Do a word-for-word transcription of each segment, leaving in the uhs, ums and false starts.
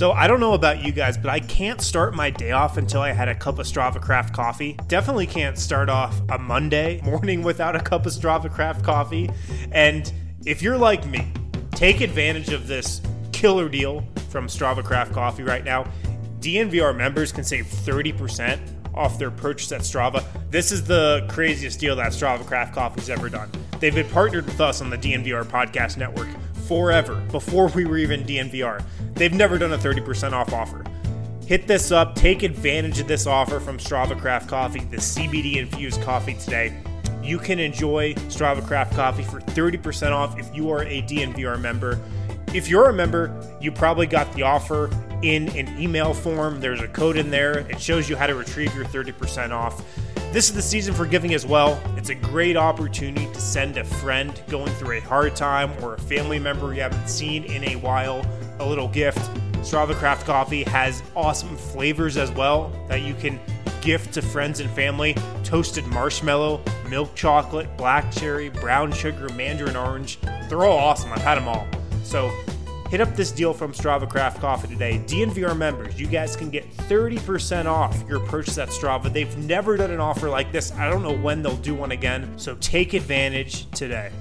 So I don't know about you guys, but I can't start my day off until I had a cup of Strava Craft coffee. Definitely can't start off a Monday morning without a cup of Strava Craft coffee. And if you're like me, take advantage of this killer deal from Strava Craft Coffee right now. D N V R members can save thirty percent off their purchase at Strava. This is the craziest deal that Strava Craft Coffee's ever done. They've been partnered with us on the D N V R podcast network forever, before we were even D N V R. They've never done a thirty percent off offer. Hit this up, take advantage of this offer from Strava Craft Coffee, the C B D infused coffee today. You can enjoy Strava Craft Coffee for thirty percent off if you are a D N V R member. If you're a member, you probably got the offer in an email form. There's a code in there. It shows you how to retrieve your thirty percent off. This is the season for giving as well. It's a great opportunity to send a friend going through a hard time or a family member you haven't seen in a while a little gift. Strava Craft Coffee has awesome flavors as well that you can gift to friends and family. Toasted marshmallow, milk chocolate, black cherry, brown sugar, mandarin orange. They're all awesome. I've had them all. So hit up this deal from Strava Craft Coffee today. D N V R members, you guys can get thirty percent off your purchase at Strava. They've never done an offer like this. I don't know when they'll do one again. So take advantage today.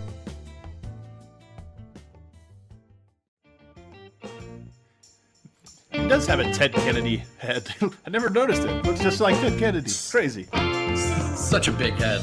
He does have a Ted Kennedy head. I never noticed it. Looks just like Ted Kennedy. Crazy. Such a big head.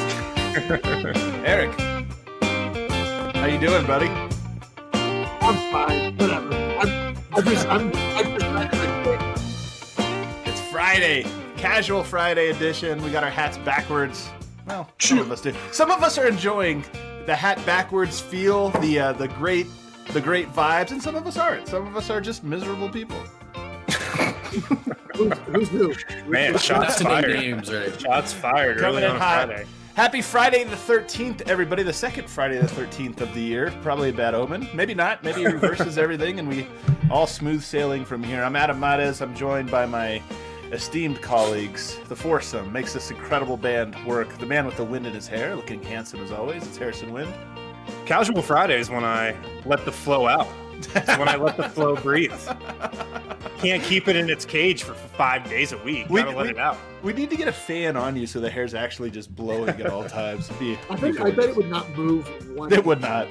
Eric, how you doing, buddy? I'm fine. Whatever. I'm, I'm just, I'm, I'm just It's Friday. Casual Friday edition. We got our hats backwards. Well, some of us do. Some of us are enjoying the hat backwards feel, the uh, the great the great vibes, and some of us aren't. Some of us are just miserable people. who's, who's who? Man, shots fired. Names, right? Shots fired Coming early in on hot. Friday. Happy Friday the thirteenth, everybody. The second Friday the thirteenth of the year. Probably a bad omen. Maybe not. Maybe it reverses everything and we all smooth sailing from here. I'm Adam Mares. I'm joined by my esteemed colleagues. The foursome makes this incredible band work. The man with the wind in his hair, looking handsome as always. It's Harrison Wind. Casual Friday is when I let the flow out. It's when I let the flow breathe. Can't keep it in its cage for five days a week. We- Gotta let we- it out. We need to get a fan on you so the hair's actually just blowing at all times. It'd be, I think I bet it would not move one. It would not.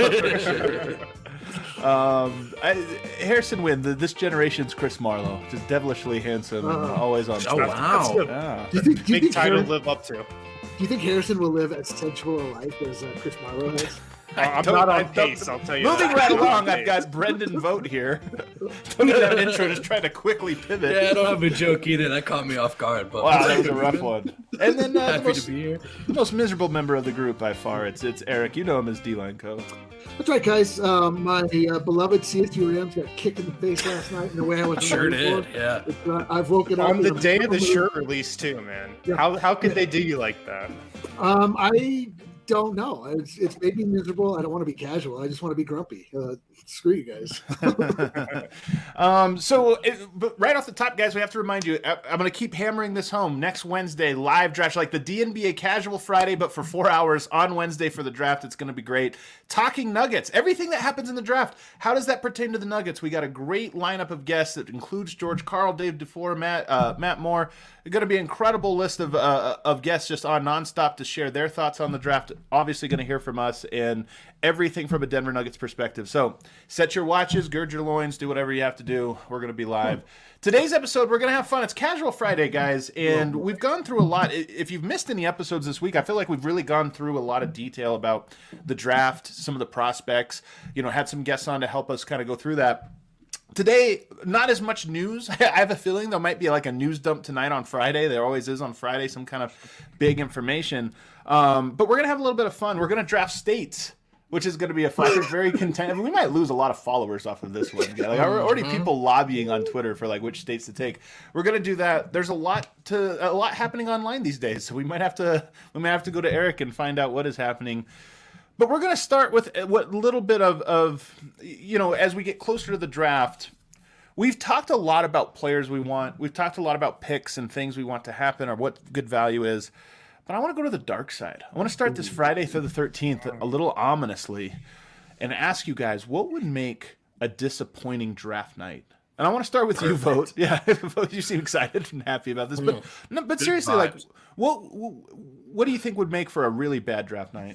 um, I, Harrison Wind, the, this generation's Chris Marlowe, just devilishly handsome, and Uh, always on. Oh, wow. Yeah. Do you think, do you Big think title to Harrison, live up to. do you think Harrison will live as sensual a life as uh, Chris Marlowe has? Uh, I'm don't- not I on don't- pace, I'll tell you Moving that. right I'm not along, on I've got Brendan Vogt here. Don't even have an intro, just trying to quickly pivot. Yeah, I don't have a joke either. That caught me off guard. But Wow, that was a rough one. And then uh, the, happy most, to be here. the most miserable member of the group by far, it's it's Eric. You know him as D-Line Co. That's right, guys. Um, my uh, beloved C S U Rams got kicked in the face last night in the way I was Sure ready did. for. Yeah. It's, uh, I've woken up On the in a day of the mood. shirt release, too, man. Yeah. How how could they do you like that? Um, I don't know. It's, it's made me miserable. I don't want to be casual. I just want to be grumpy. Uh, screw you guys. um, so, it, but right off the top, guys, we have to remind you, I, I'm going to keep hammering this home. Next Wednesday, live draft, like the D N B A Casual Friday, but for four hours on Wednesday for the draft. It's going to be great. Talking Nuggets, everything that happens in the draft. How does that pertain to the Nuggets? We got a great lineup of guests that includes George Karl, Dave DeFore, Matt uh, Matt Moore. It's going to be an incredible list of uh, of guests just on nonstop to share their thoughts on the draft. Obviously, going to hear from us and everything from a Denver Nuggets perspective. So set your watches, gird your loins, do whatever you have to do. We're going to be live. Today's episode, we're going to have fun. It's Casual Friday, guys, and we've gone through a lot. If you've missed any episodes this week, I feel like we've really gone through a lot of detail about the draft, some of the prospects, you know, had some guests on to help us kind of go through that. Today, not as much news. I have a feeling there might be like a news dump tonight on Friday. There always is on Friday, some kind of big information. Um, but we're going to have a little bit of fun. We're going to draft states, which is going to be a fun, very content. We might lose a lot of followers off of this one. Like, already people lobbying on Twitter for like which states to take. We're going to do that. There's a lot to a lot happening online these days, so we might have to we might have to go to Eric and find out what is happening. But we're going to start with what little bit of, of, you know, as we get closer to the draft, we've talked a lot about players we want. We've talked a lot about picks and things we want to happen or what good value is. But I want to go to the dark side. I want to start this Friday through the thirteenth a little ominously and ask you guys, what would make a disappointing draft night And I want to start with Perfect. you, Vote. Yeah, Vote. You seem excited and happy about this, but mm. no, but Good seriously, vibes. like, what what do you think would make for a really bad draft night?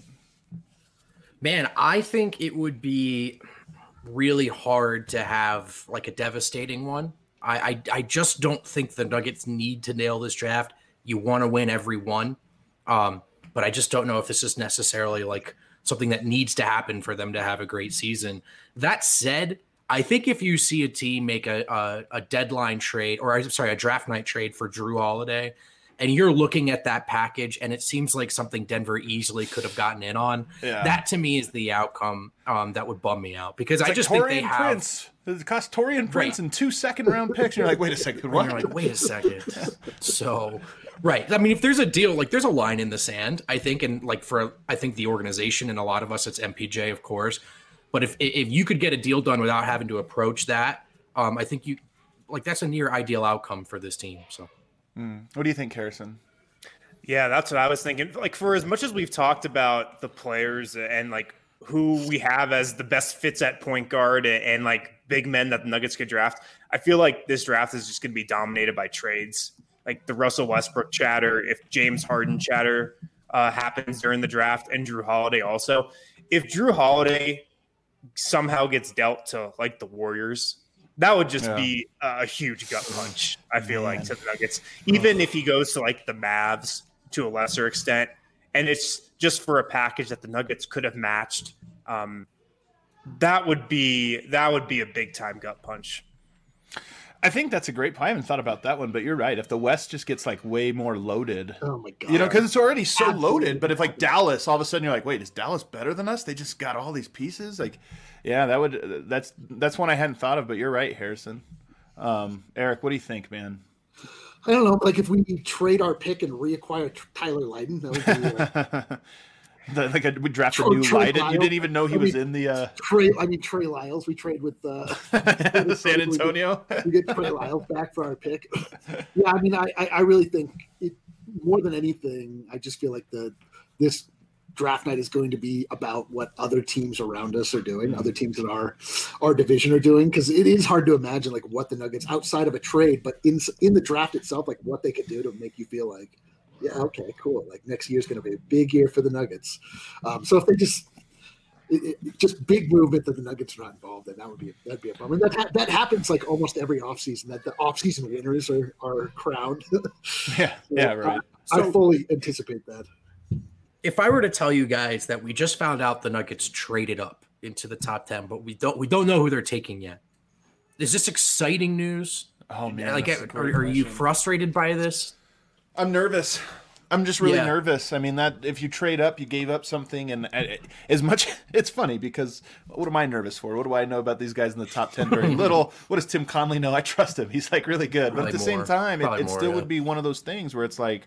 Man, I think it would be really hard to have like a devastating one. I I, I just don't think the Nuggets need to nail this draft. You want to win every one, um, but I just don't know if this is necessarily like something that needs to happen for them to have a great season. That said, I think if you see a team make a, a, a deadline trade, or I'm sorry, a draft night trade for Drew Holiday, and you're looking at that package and it seems like something Denver easily could have gotten in on, yeah. that to me is the outcome um, that would bum me out. Because it's I like just Torian think they have... Prince. It cost Torian Prince right. and two second-round picks. And you're like, wait a second, what? And you're like, wait a second. So, right. I mean, if there's a deal, like there's a line in the sand, I think, and like for, I think the organization and a lot of us, it's M P J, of course. But if if you could get a deal done without having to approach that, um, I think you, like that's a near ideal outcome for this team. So. Mm. What do you think, Harrison? Yeah, that's what I was thinking. Like, for as much as we've talked about the players and like who we have as the best fits at point guard and, and like big men that the Nuggets could draft, I feel like this draft is just going to be dominated by trades. Like the Russell Westbrook chatter, if James Harden chatter uh, happens during the draft, and Drew Holiday also. If Drew Holiday somehow gets dealt to like the Warriors, that would just yeah. be a huge gut punch, I feel Man. like, to the Nuggets. Even if he goes to, like, the Mavs to a lesser extent, and it's just for a package that the Nuggets could have matched, um, that would be that would be a big-time gut punch. I think that's a great point. I haven't thought about that one, but you're right. If the West just gets, like, way more loaded. Oh, my God. You know, because it's already so Absolutely. loaded. But if, like, Dallas, all of a sudden you're like, wait, is Dallas better than us? They just got all these pieces? Like, yeah, that would that's that's one I hadn't thought of, but you're right, Harrison. Um, Eric, what do you think, man? I don't know. Like, if we trade our pick and reacquire Tyler Lydon, that would be... Uh... The, like a, we draft a new Lydon. You didn't even know he I mean, was in the. Uh... Trey, I mean Trey Lyles. We trade with uh, San Antonio. We get, we get Trey Lyles back for our pick. Yeah, I mean, I, I really think it, more than anything, I just feel like the this draft night is going to be about what other teams around us are doing, mm-hmm. other teams in our our division are doing, because it is hard to imagine like what the Nuggets outside of a trade, but in in the draft itself, like what they could do to make you feel like. Yeah, okay, cool. Like next year's going to be a big year for the Nuggets. Um, so if they just it, it, just big movement that the Nuggets are not involved in, that would be that'd be a problem. And that ha- that happens like almost every offseason, that the offseason winners are are crowned. yeah, so yeah, right. I, so, I fully anticipate that. If I were to tell you guys that we just found out the Nuggets traded up into the top ten, but we don't we don't know who they're taking yet. Is this exciting news? Oh man, like are, are you frustrated by this? I'm nervous. I'm just really yeah. nervous. I mean, that if you trade up, you gave up something, and as much, it's funny because what am I nervous for? What do I know about these guys in the top ten? Very little. What does Tim Conley know? I trust him. He's like really good, Probably but at the more. same time, it, it more, still yeah. would be one of those things where it's like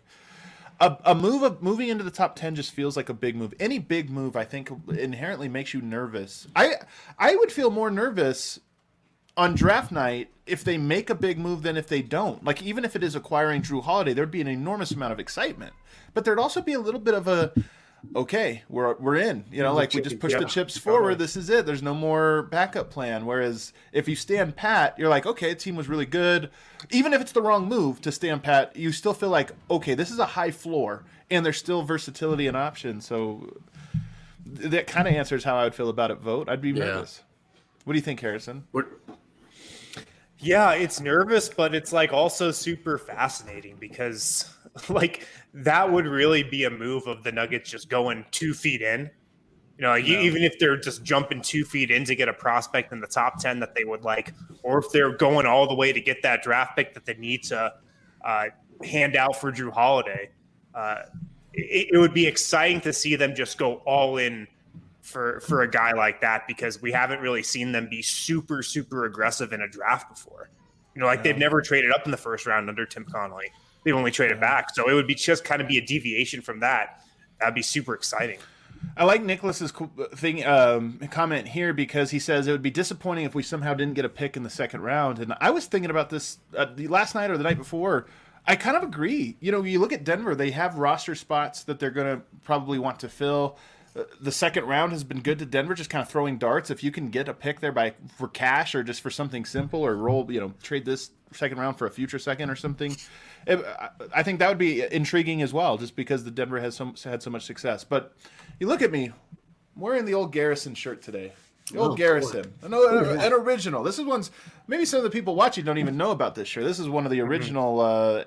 a, a move of moving into the top ten just feels like a big move. Any big move, I think, inherently makes you nervous. I I would feel more nervous on draft night if they make a big move than if they don't. Like, even if it is acquiring Drew Holiday, there'd be an enormous amount of excitement. But there'd also be a little bit of a, okay, we're we're in. You know, like we just push yeah. the chips forward. This is it. There's no more backup plan. Whereas if you stand pat, you're like, okay, the team was really good. Even if it's the wrong move to stand pat, you still feel like, okay, this is a high floor, and there's still versatility and options. So that kind of answers how I would feel about it, Vote. I'd be yeah. nervous. What do you think, Harrison? What? Yeah, it's nervous, but it's like also super fascinating because like that would really be a move of the Nuggets just going two feet in. You know, like no. even if they're just jumping two feet in to get a prospect in the top ten that they would like, or if they're going all the way to get that draft pick that they need to uh, hand out for Drew Holiday, uh, it, it would be exciting to see them just go all in for for a guy like that, because we haven't really seen them be super, super aggressive in a draft before. You know, like yeah. they've never traded up in the first round under Tim Conley. They've only traded yeah. back. So it would be just kind of be a deviation from that. That'd be super exciting. I like Nicholas's thing um, comment here because he says it would be disappointing if we somehow didn't get a pick in the second round. And I was thinking about this uh, the last night or the night before. I kind of agree. You know, you look at Denver, they have roster spots that they're going to probably want to fill. the second round has been good to Denver, just kind of throwing darts. If you can get a pick there by for cash or just for something simple, or roll, you know, trade this second round for a future second or something, it, I think that would be intriguing as well, just because the Denver has so, had so much success. But you look at me, I'm wearing the old Garrison shirt today. The old Oh, Garrison, an, an, an original. This is one's maybe some of the people watching don't even know about this shirt. This is one of the original uh,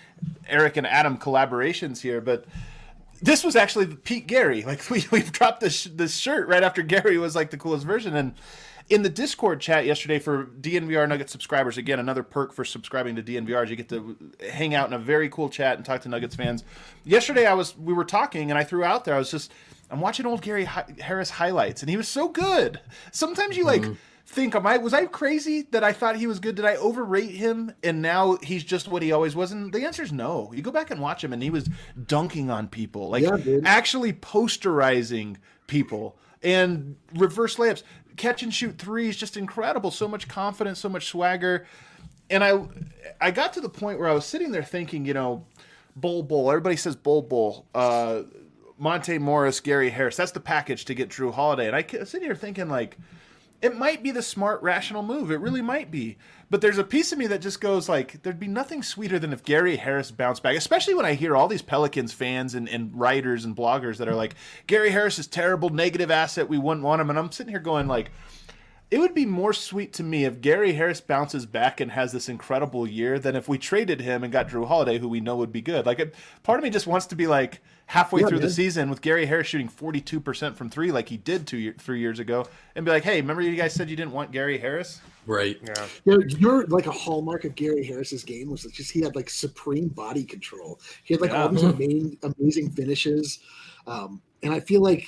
Eric and Adam collaborations here, but this was actually Pete Gary. Like we we dropped this this shirt right after Gary was like the coolest version. And in the Discord chat yesterday for D N V R Nuggets subscribers, again another perk for subscribing to D N V R is you get to hang out in a very cool chat and talk to Nuggets fans. Yesterday I was we were talking and I threw out there I was just I'm watching old Gary Harris highlights and he was so good. Sometimes you like. Mm-hmm. Think, am I was I crazy that I thought he was good? Did I overrate him and now he's just what he always was? And the answer is no. You go back and watch him and he was dunking on people, like yeah, actually posterizing people and reverse layups, catch and shoot threes, just incredible. So much confidence, so much swagger. And I I got to the point where I was sitting there thinking, you know, Bol Bol. Everybody says Bol Bol. Uh, Monte Morris, Gary Harris. That's the package to get Drew Holiday. And I was sitting here thinking, like, it might be the smart, rational move. It really might be. But there's a piece of me that just goes like, there'd be nothing sweeter than if Gary Harris bounced back, especially when I hear all these Pelicans fans and, and writers and bloggers that are like, Gary Harris is terrible, negative asset, we wouldn't want him. And I'm sitting here going like, it would be more sweet to me if Gary Harris bounces back and has this incredible year than if we traded him and got Drew Holiday, who we know would be good. Like, it, part of me just wants to be like, halfway yeah, through man. the season with Gary Harris shooting forty-two percent from three like he did two year, three years ago and be like, hey, remember you guys said you didn't want Gary Harris? Right. Yeah. You know, you're like a hallmark of Gary Harris's game was just he had like supreme body control. He had like yeah. all these amazing, amazing finishes. Um, and I feel like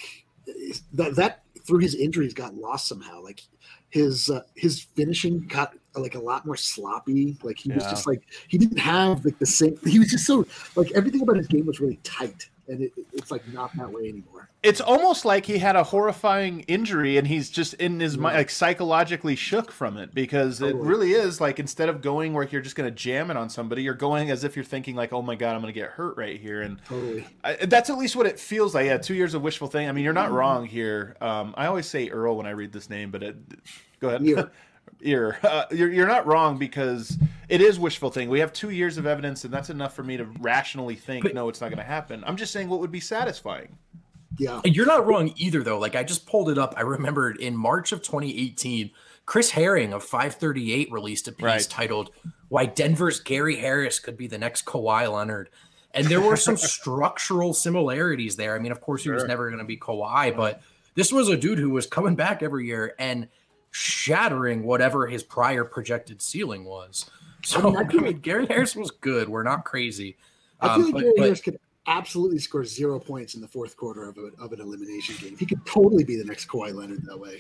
that, that through his injuries got lost somehow. Like his uh, his finishing got like a lot more sloppy. Like he was yeah. just like he didn't have like the same. He was just so like everything about his game was really tight. And it, it's like not that way anymore. It's almost like he had a horrifying injury and he's just in his yeah. mind, like psychologically shook from it because totally. it really is like instead of going where you're just going to jam it on somebody, you're going as if you're thinking like, oh my God, I'm going to get hurt right here. And totally. I, that's at least what it feels like. Yeah, two years of wishful thinking. I mean, you're not mm-hmm. wrong here. Um, I always say Earl when I read this name, but it, go ahead. Yeah. Ear. Uh, you're, you're not wrong because it is wishful thinking. We have two years of evidence, and that's enough for me to rationally think, but, no, it's not going to happen. I'm just saying what would be satisfying. Yeah. You're not wrong either, though. Like, I just pulled it up. I remembered in March of twenty eighteen, Chris Herring of five thirty-eight released a piece right. titled, Why Denver's Gary Harris Could Be the Next Kawhi Leonard. And there were some structural similarities there. I mean, of course, he sure. was never going to be Kawhi, but this was a dude who was coming back every year and shattering whatever his prior projected ceiling was. So I mean, I mean, Gary Harris was good. We're not crazy. I feel um, like but, Gary but, Harris could absolutely score zero points in the fourth quarter of, a, of an elimination game. He could totally be the next Kawhi Leonard that way.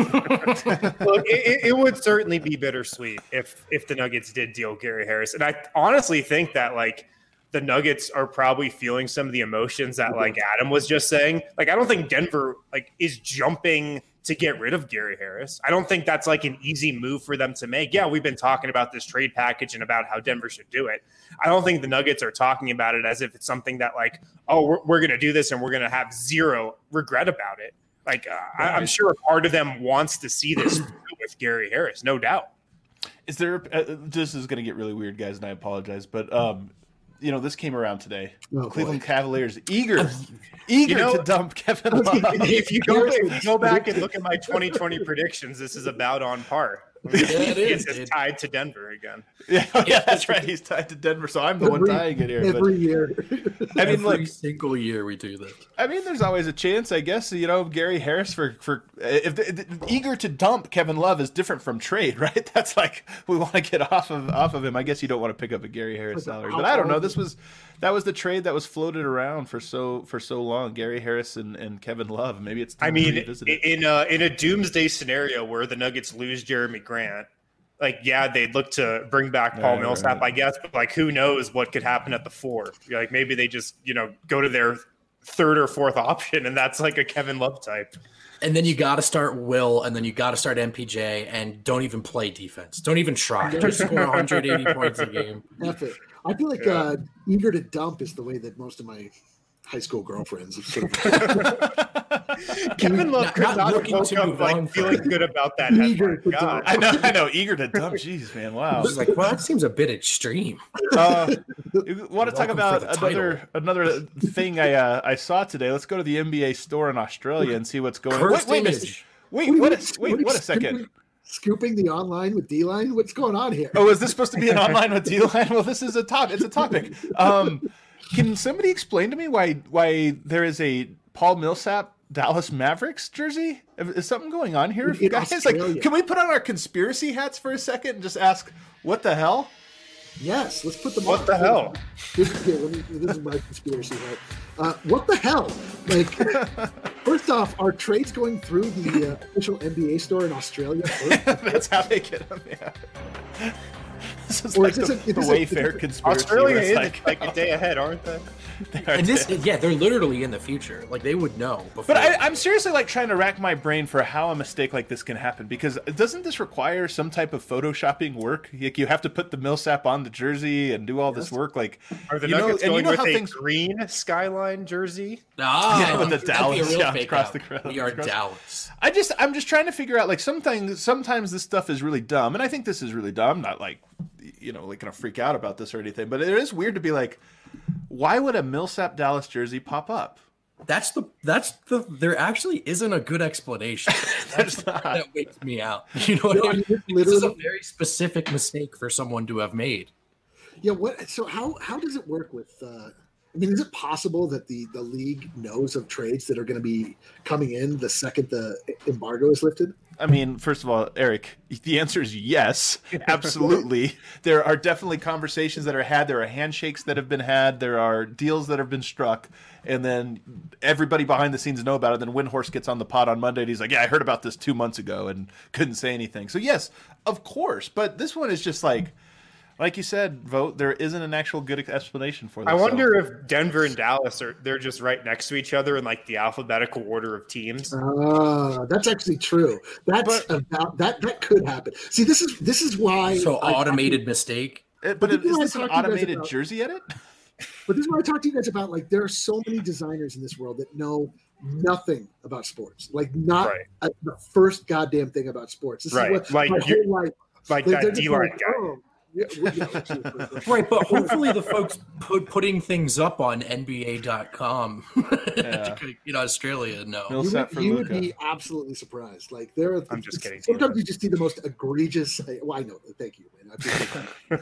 Look, it, it would certainly be bittersweet if if the Nuggets did deal Gary Harris. And I honestly think that like the Nuggets are probably feeling some of the emotions that like Adam was just saying. Like, I don't think Denver like is jumping to get rid of Gary Harris. I don't think that's like an easy move for them to make. Yeah, we've been talking about this trade package and about how Denver should do it. I don't think the Nuggets are talking about it as if it's something that like, oh, we're, we're going to do this and we're going to have zero regret about it. Like, uh, right. I, I'm sure part of them wants to see this with Gary Harris, no doubt. Is there, uh, this is going to get really weird, guys, and I apologize, but um, you know, this came around today. Oh, Cleveland boy. Cavaliers eager, eager you know, to dump Kevin Love. If you go, if you go back and look at my twenty twenty predictions, this is about on par. Yeah, it is. It's tied to Denver again. Yeah, yeah, that's right. He's tied to Denver, so I'm the every, one tying it here. Every but, year. I mean, every like single year we do this. I mean, there's always a chance, I guess. You know, Gary Harris for for if the, the, eager to dump Kevin Love is different from trade, right? That's like we want to get off of off of him. I guess you don't want to pick up a Gary Harris salary, but I don't know. This was that was the trade that was floated around for so for so long. Gary Harris and, and Kevin Love. Maybe it's time I mean, to revisit it. in a in a doomsday scenario where the Nuggets lose Jeremy Grant. Like, yeah, they'd look to bring back Paul right, Millsap, right. I guess, but like, who knows what could happen at the four? Like, maybe they just, you know, go to their third or fourth option, and that's like a Kevin Love type. And then you got to start Will, and then you got to start M P J, and don't even play defense. Don't even try. Just score one hundred eighty points a game. F it. I feel like yeah. uh, eager to dump is the way that most of my high school girlfriends have sort of Kevin Love Not- could not not have looking woke to up move like on feeling from- good about that. Eager headline. to God. I know, I know. Eager to dump. Jeez, man. Wow. I was like, well, that seems a bit extreme. Uh, you want to talk Welcome about for the another another thing I uh, I saw today? Let's go to the N B A store in Australia and see what's going on. Wait, Cursed wait, a minute. image. wait, what a, wait, what a second. Scooping, scooping the online with D-Line? What's going on here? Oh, is this supposed to be an online with D-Line? Well, this is a top. It's a topic. Um, can somebody explain to me why why there is a Paul Millsap Dallas Mavericks jersey? Is something going on here, In guys? Australia. Like, can we put on our conspiracy hats for a second and just ask what the hell? Yes, let's put them What on. the hell? This, here, let me, this is my conspiracy hat. Uh, what the hell? Like, first off, are trades going through the uh, official N B A store in Australia first? That's how they get them. Yeah. This is Or like is this the, a- is the this a- Wayfair conspiracy. Australia where it's is like, like, a day ahead, aren't they? And this, yeah, they're literally in the future. Like they would know before. But I, I'm seriously like trying to rack my brain for how a mistake like this can happen, because doesn't this require some type of photoshopping work? Like you have to put the Millsap on the jersey and do all this work. Like, Are the you know, Nuggets and you going know with how a things. green skyline jersey? Ah, Yeah, with the that'd be a Dallas, real yeah, fake across out. the crowd. We are Across- Dallas. I just I'm just trying to figure out like sometimes sometimes this stuff is really dumb, and I think this is really dumb. I'm not like you know like gonna freak out about this or anything, but it is weird to be like, why would a Millsap Dallas jersey pop up? That's the that's the there actually isn't a good explanation. That's the part that wakes me out. You know what No, I I mean? mean, This is a literally- very specific mistake for someone to have made. Yeah, what? So how how does it work with? Uh, I mean, is it possible that the the league knows of trades that are going to be coming in the second the embargo is lifted? I mean, first of all, Eric, the answer is yes, absolutely. There are definitely conversations that are had. There are handshakes that have been had. There are deals that have been struck. And then everybody behind the scenes know about it. Then Windhorse gets on the pod on Monday and he's like, yeah, I heard about this two months ago and couldn't say anything. So yes, of course. But this one is just like, like you said, Vote, there isn't an actual good explanation for this. I so- wonder if Denver and Dallas are they're just right next to each other in like the alphabetical order of teams. Ah, that's actually true. That's about that. That could happen. See, this is this is why. So I- automated mistake. Uh, But But didn't is I this an talk to you guys automated about- jersey edit? But this is what I talk to you guys about. Like, there are so many designers in this world that know nothing about sports. Like, not Right. uh, the first goddamn thing about sports. This Right. is what Like my you- whole life. Like They're- that they're just D-line like, guy. oh, yeah, well, yeah, absolutely. Right, but hopefully the folks put putting things up on N B A dot com Yeah. in Australia know. Mill- You set would, for you would Luka. be absolutely surprised. Like there, are, I'm just kidding. Sometimes you just see the most egregious. Well, I know. Thank you, man. I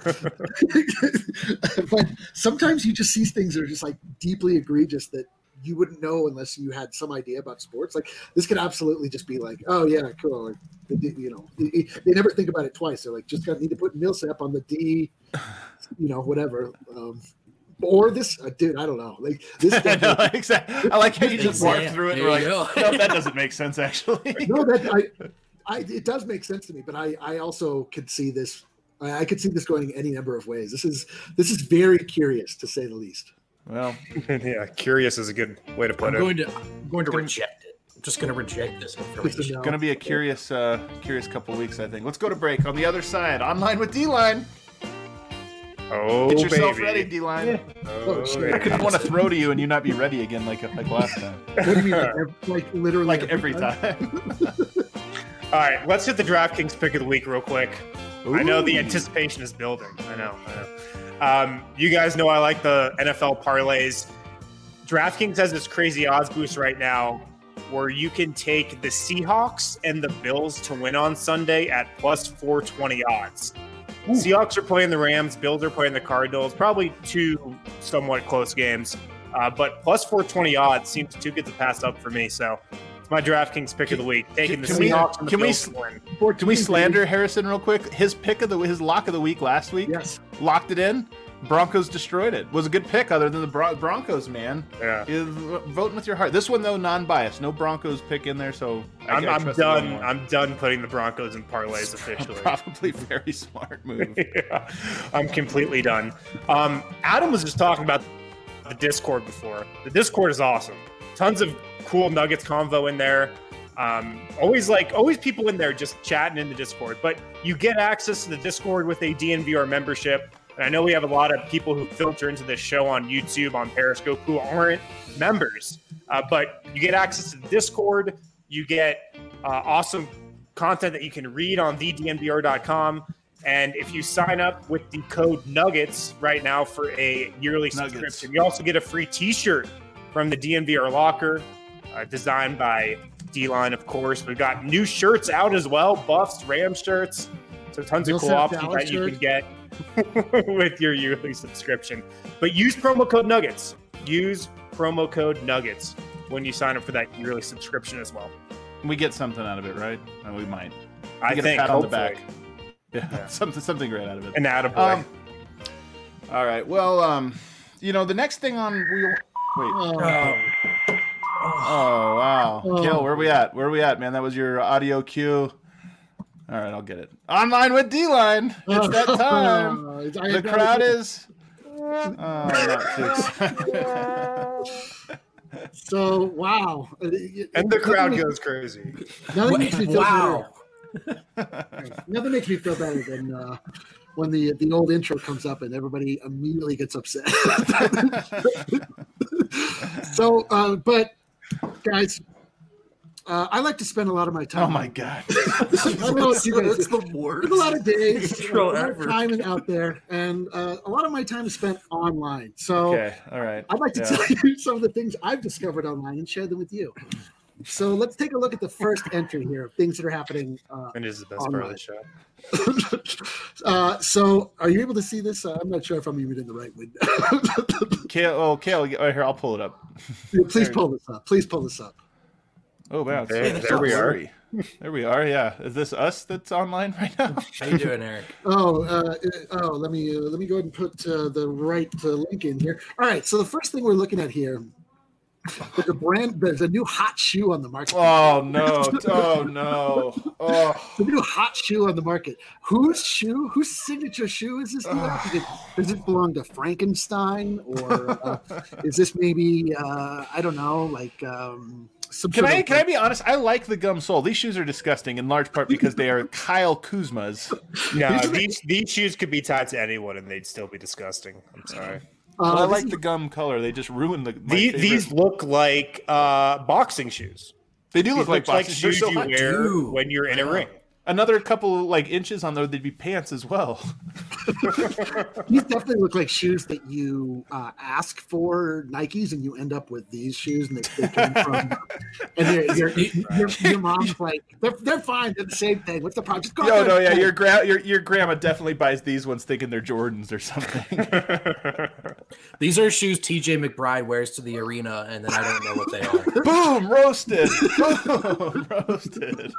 appreciate but sometimes you just see things that are just like deeply egregious that you wouldn't know unless you had some idea about sports. Like this could absolutely just be like, oh yeah, cool. Like, they, did- you know, they, they never think about it twice. They're like, just got need to put Millsap on the D, you know, whatever. Um, or this, uh, dude, I don't know. Like this. I know, definitely- exactly. I like how you just walk Exact- through it and there we're you like, go. no, that doesn't make sense, actually. no, that I, I, it does make sense to me, but I, I also could see this. I, I could see this going any number of ways. This is, this is very curious to say the least. Well, Yeah, curious is a good way to I'm put it. going to I'm going to reject it. I'm just going to reject this information. No. going to be a curious, uh, curious couple weeks, I think. Let's go to break. On the other side, online with D-Line. Oh, Get yourself baby. ready, D-Line. Oh, shit. I couldn't want to throw to you and you not be ready again like like last time. What do you mean, like, ev- like literally Like every time. All right, let's hit the DraftKings pick of the week real quick. I know the anticipation is building. I know. I know. Um, you guys know I like the N F L parlays. DraftKings has this crazy odds boost right now where you can take the Seahawks and the Bills to win on Sunday at plus four twenty odds. Seahawks are playing the Rams. Bills are playing the Cardinals. Probably two somewhat close games. Uh, but plus four twenty odds seems too good to pass up for me. So it's my DraftKings pick of the week. Taking the Can we- Seahawks and the can we Bills s- to win. Can we slander Harrison real quick? His pick of the his lock of the week last week. Yes. Locked it in. Broncos destroyed it. Was a good pick other than the Bron- Broncos, man. Yeah. Is voting with your heart. This one though, non-biased. No Broncos pick in there, so I, I'm, I I'm trust the other done. one. I'm done putting the Broncos in parlays officially. Probably very smart move. Yeah, I'm completely done. Um, Adam was just talking about the Discord before. The Discord is awesome. Tons of cool Nuggets convo in there. Um, always like always people in there just chatting in the Discord. But you get access to the Discord with a D N V R membership. And I know we have a lot of people who filter into this show on YouTube, on Periscope, who aren't members. Uh, but you get access to the Discord. You get uh, awesome content that you can read on the D N V R dot com. And if you sign up with the code Nuggets right now for a yearly Nuggets. subscription, you also get a free T-shirt from the D N V R locker, uh, designed by D-Line, of course. We've got new shirts out as well, Buffs, Ram shirts. So tons of You'll cool sell options Dallas that you shirts? can get with your yearly subscription. But use promo code Nuggets. Use promo code Nuggets when you sign up for that yearly subscription as well. We get something out of it, right? And we might. We I get think, a pat on the hopefully. back. Yeah, something something great out of it. An attaboy. Um, all right. Well, um, you know, the next thing on we wait. Oh, Oh wow, Oh. Gil, where we at? Where we at, man? That was your audio cue. All right, I'll get it. Online with D-Line. It's that time. I The have no crowd idea. is. Oh, not too excited. So wow, and the crowd goes crazy. Nothing makes me feel Wow. better. Nothing makes me feel better than uh, when the the old intro comes up and everybody immediately gets upset. So, uh, but guys, uh, I like to spend a lot of my time. Oh my god. I don't know what you guys That's do. the worst. There's a lot of days, Intro a lot of ever. time is out there, and uh, a lot of my time is spent online. So Okay. All right. I'd like to Yeah. tell you some of the things I've discovered online and share them with you. So let's take a look at the first entry here of things that are happening. Uh, And this is the best part of the show. uh, so are you able to see this? Uh, I'm not sure if I'm even in the right window. Kale, oh, Kale, oh, here, I'll pull it up. Please pull this up. Please pull this up. Oh, wow. it's- There- it's there all we are. blurry. There we are, yeah. Is this us that's online right now? How you doing, Eric? Oh, uh, oh, let me uh, let me go ahead and put uh, the right uh, link in here. All right. So the first thing we're looking at here, there's a brand, there's a new hot shoe on the market. Oh, no. Oh, no. Oh. The new hot shoe on the market. Whose shoe? Whose signature shoe is this? New does, it, does it belong to Frankenstein, or uh, is this maybe uh, I don't know, like um, some Can sort I of- can I be honest? I like the gum sole. These shoes are disgusting in large part because they are Kyle Kuzma's. No, these these shoes could be tied to anyone and they'd still be disgusting. I'm sorry. Uh, But I this like is- the gum color. They just ruin the. my These, favorite- these look like uh, boxing shoes. they do These look like look like boxers. They're shoes so you hot. wear do. when you're in a ring. Another couple like inches on there, they'd be pants as well. These definitely look like shoes that you uh, ask for Nikes, and you end up with these shoes, and they, they came from. And they're, your, your, your mom's like, they're, they're fine. They're the same thing. What's the problem? Just go No, ahead no, and yeah, pull your it. gra- your your grandma definitely buys these ones thinking they're Jordans or something. These are shoes T J McBride wears to the arena, and then I don't know what they are. Boom, roasted. Boom, roasted.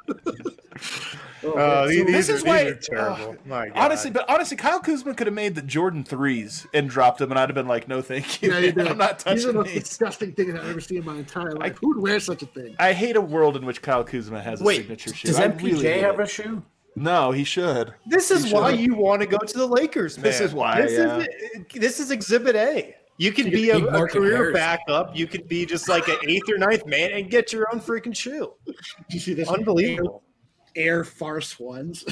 Oh, Uh, these, so- these this are, is these why- are terrible. My God. Honestly, but honestly, Kyle Kuzma could have made the Jordan threes and dropped them, and I'd have been like, "No, thank you. Yeah, you man. do. I'm not These are touching the most these." disgusting things I've ever seen in my entire life. Who would wear such a thing? I hate a world in which Kyle Kuzma has a Wait, signature shoe. does I M P J really hate have it. a shoe? No, he should. this is You why should. you want to go to the Lakers, man. This is why, This, yeah. is, this is Exhibit A. You could be a, Big a Market career Harris. backup. You could be just like an eighth or ninth man and get your own freaking shoe. Do you see this? Unbelievable. Air Farce ones.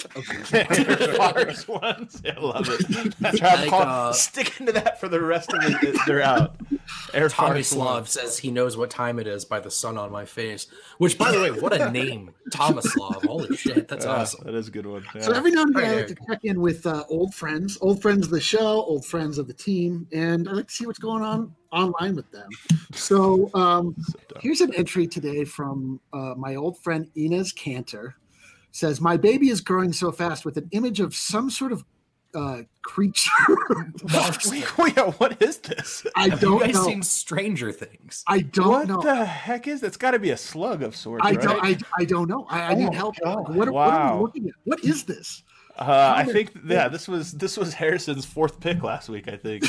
Farce ones. I love it. Try to Like, call- uh, stick into that for the rest of the. They're out. Air Tommy Farce Slav ones. says he knows what time it is by the sun on my face. Which, by the way, what a name, Tomislav. Holy shit, that's Yeah, awesome. that is a good one. So Yeah. every now and then I Right like to check in with uh, old friends, old friends of the show, old friends of the team, and I like to see what's going on online with them. So um, here's an entry today from uh, my old friend Inez Cantor. Says, my baby is growing so fast with an image of some sort of uh, creature. Wait, wait, what is this? I You don't guys know. seen Stranger Things? I don't What know. the heck is that's got to be a slug of sorts, I right? don't. I, I don't know. I, I need help. What, what are Wow. we looking at? What is this? Uh, I How think did- yeah, this was this was Harrison's fourth pick last week. I think.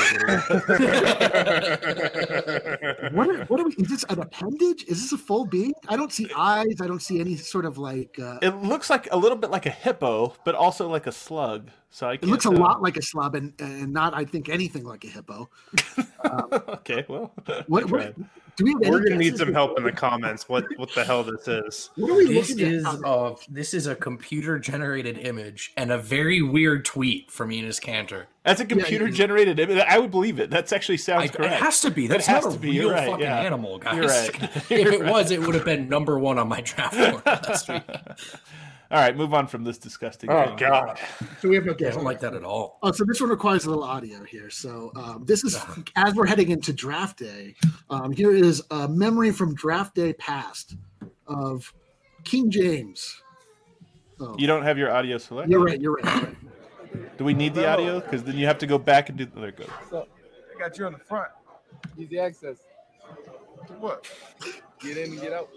What are, what are we? Is this an appendage? Is this a full being? I don't see eyes. I don't see any sort of like. Uh, It looks like a little bit like a hippo, but also like a slug. So I it can't looks a tell. lot like a slub, and, and not, I think, anything like a hippo. Okay, well, What, I what, tried. Do we have any We're gonna need guesses some of- help in the comments. What what the hell this is? What are we This looking is at? a this is a computer generated image and a very weird tweet from Enos Cantor. That's a computer generated image. I would believe it. That actually sounds I, correct. it has to be. That's has not to a be. You're real right, fucking yeah. animal, guys. You're right. if You're it right. was, it would have been number one on my draft board last week. All right, move on from this disgusting Oh thing. god. So we have no I guess. don't like that at all. Oh, so this one requires a little audio here. So um, this is as we're heading into draft day. Um, here is a memory from draft day past of King James. Oh, You don't have your audio selected? you're right. You're right. You're right. Do we need the audio? Because then you have to go back and do. There it goes. So, I got you on the front. Easy access. To what? Get in and get out.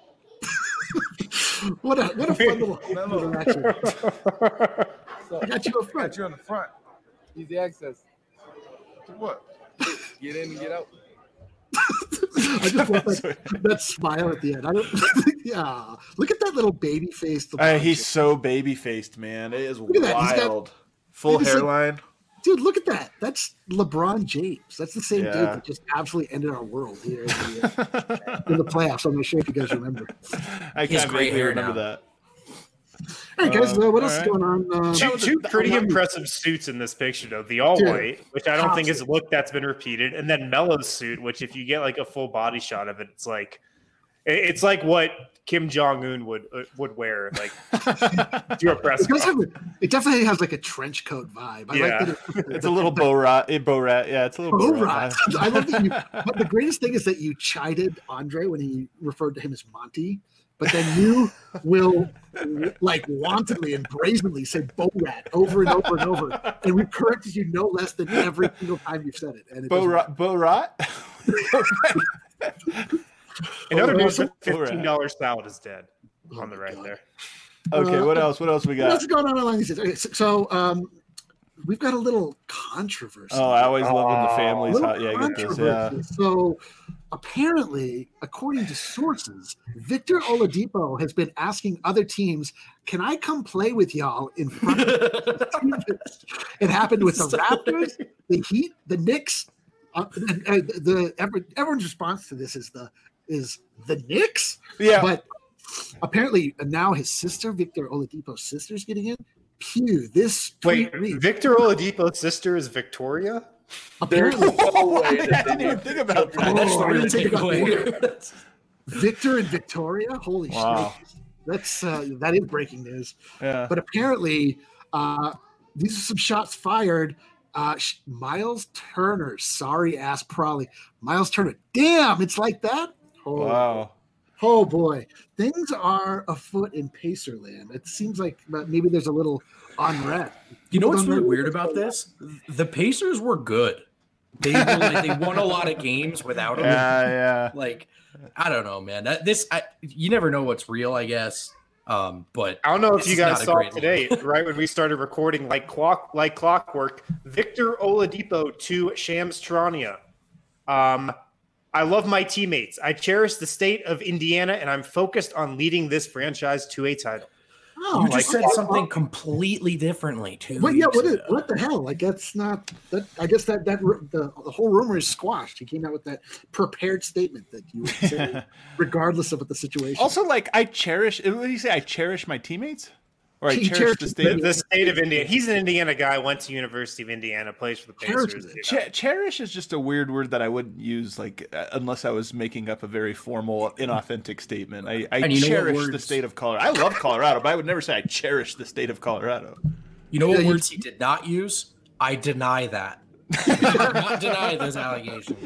What a what a fun little Mellow. interaction. So, I got you up I front. got you on the front. Easy access. To what? Get in and get out. I just love that, that smile at the end. I don't. Yeah, look at that little baby face. Uh, he's so baby faced, man. It is at that. He's got- wild. Full He's like- hairline. Dude, look at that. That's LeBron James. That's the same dude Yeah. that just absolutely ended our world here in the, uh, in the playoffs. I'm not sure if you guys remember. I He has can't gray vaguely hair remember now. that. All right, guys. Uh, Uh, what else all is going on? Uh, Two, two pretty I'm- impressive suits in this picture, though. The all Dude, white, which I don't think is a top look that's been repeated, and then Melo's suit, which if you get like a full body shot of it, it's like it- it's like what Kim Jong Un would uh, would wear, like to a press It, does conference. have a, it definitely has like a trench coat vibe. I Yeah. like that. It, It's a little bow rat. eh, Bow rat. Yeah, it's a little Oh, bow rat. right. I love that you. But the greatest thing is that you chided Andre when he referred to him as Monty, but then you will like wantonly and brazenly say "Bo Rat" over and over and over, and we corrected you no less than every single time you've said it. And it Bow doesn't- rat. Bow rat. In other Oh, news, awesome. fifteen dollar salad is dead Oh on the my right God. there. Okay, what else? What else we What's got? going on along these? Okay, so, so um, we've got a little controversy. Oh, I always love when the Oh. families. Little Hot. Yeah, I get this. Yeah. controversy. So apparently, according to sources, Victor Oladipo has been asking other teams, "Can I come play with y'all in front of the team?" It happened with the Raptors, the Heat, the Knicks. Uh, and, uh, the every, everyone's response to this is the is the Knicks, Yeah. but apparently now his sister, Victor Oladipo's sister, is getting in. Pew, this Wait, tweet reads, Victor Oladipo's sister is Victoria? apparently no way I that didn't even think about that. Oh, That's the I real didn't think about takeaway. Victor and Victoria. Holy Wow. shit! That's uh, that is breaking news. Yeah. But apparently, uh, these are some shots fired. Uh, sh- Miles Turner, sorry ass Probably. Miles Turner. Damn, it's like that. Oh, Wow. oh boy, things are afoot in Pacerland. It seems like maybe there's a little unrest. You know what's People really don't weird about this? The Pacers were good. They were like, they won a lot of games without him. Yeah, yeah. Like, I don't know, man. That this I, you never know what's real, I guess. Um, but I don't know if This you is guys not a saw great today, right when we started recording, like clock, like clockwork. Victor Oladipo to Shams Charania. Um, I love my teammates. I cherish the state of Indiana, and I'm focused on leading this franchise to a title. Oh, you just like- said something completely differently too. But yeah, what, is, what the hell? Like that's not that. I guess that that ru- the, the whole rumor is squashed. He came out with that prepared statement that you would say, regardless of what the situation. Also, like, I cherish. What do you say? I cherish my teammates, or I He cherish the cherishes state. The, the state of Indiana. He's an Indiana guy. Went to University of Indiana. Plays for the Pacers. Cherishes it. you know. Che- cherish is just a weird word that I wouldn't use, like, uh, unless I was making up a very formal, inauthentic statement. I, I And you know what cherish the words- state of Colorado. I love Colorado, but I would never say I cherish the state of Colorado. You know what Yeah, you- words he did not use? I deny that. I did not deny those allegations.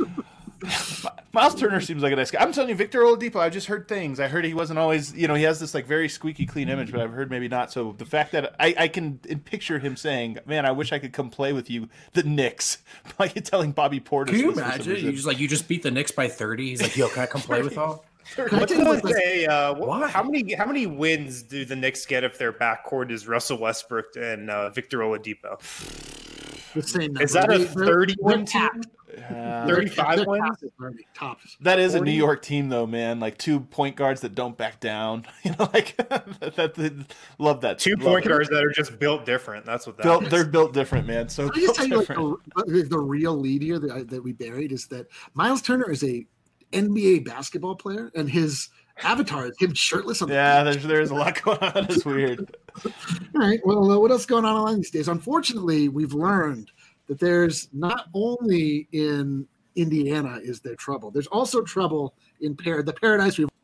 Miles Turner seems like a nice guy. I'm telling you, Victor Oladipo, I've just heard things. I heard he wasn't always, you know, he has this like very squeaky clean image, but I've heard maybe not. So the fact that I, I can picture him saying, man, I wish I could come play with you, the Knicks. Like telling Bobby Portis. Can you this for some imagine? reason. You just like you just beat the Knicks by thirty. He's like, yo, can I come play with y'all? Can I What's tell you what, the like, say? Uh, wh- Why? how many how many wins do the Knicks get if their backcourt is Russell Westbrook and uh, Victor Oladipo? the same Is number. that a They- they're- thirty-one they're team? capped. Uh, thirty-five They're wins? capped at thirty, tops. That is a forty? New York team, though, man. Like two point guards that don't back down. You know, like that, that, that- love that. Two Love point it. guards that are just built different. That's what that Built, is. they're built different, man. So Can I just built tell you, like different. the, the real lead here that, I- that we buried is that Miles Turner is a N B A basketball player, and his avatar is him shirtless on the Yeah, beach. there's there's a lot going on. It's weird. All right. Well, uh, what else is going on online these days? Unfortunately, we've learned that there's not only in Indiana is there trouble. There's also trouble in Par- the paradise we've.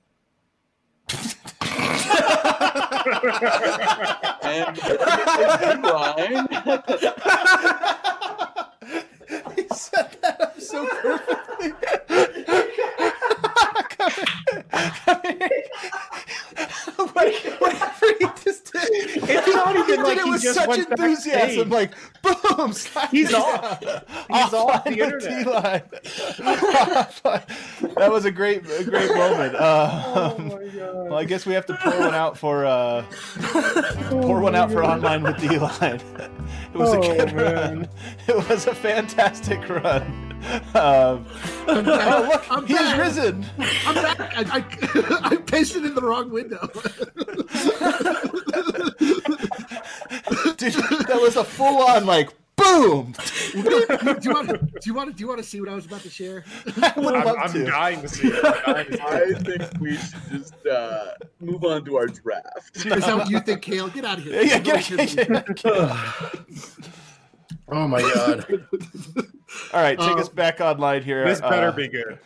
And line. He set that up so perfectly. Whatever he just did, It's not he even did like it he with just such went enthusiasm. backstage. Like boom, slap He's it off. down. He's off the Offline with internet. T-line. That was a great, a great moment. Uh, um, well, I guess we have to pour one out for uh, pour one out for online with D-line. It was Oh, a good man. run. It was a fantastic run. Um, oh, look, I'm he's back. risen. I'm back. I, I, I pasted in the wrong window. Dude, that was a full-on like boom. do you want? Do you want? Do you want to see what I was about to share? I would I'm, love I'm to. dying to see it. I'm dying to see I it. think we should just uh, move on to our draft. Is that what you think, Kale? Get out of here. Yeah, yeah, get, get, get, get. Oh my god. All right, take Uh, us back online here. This better Uh, be good.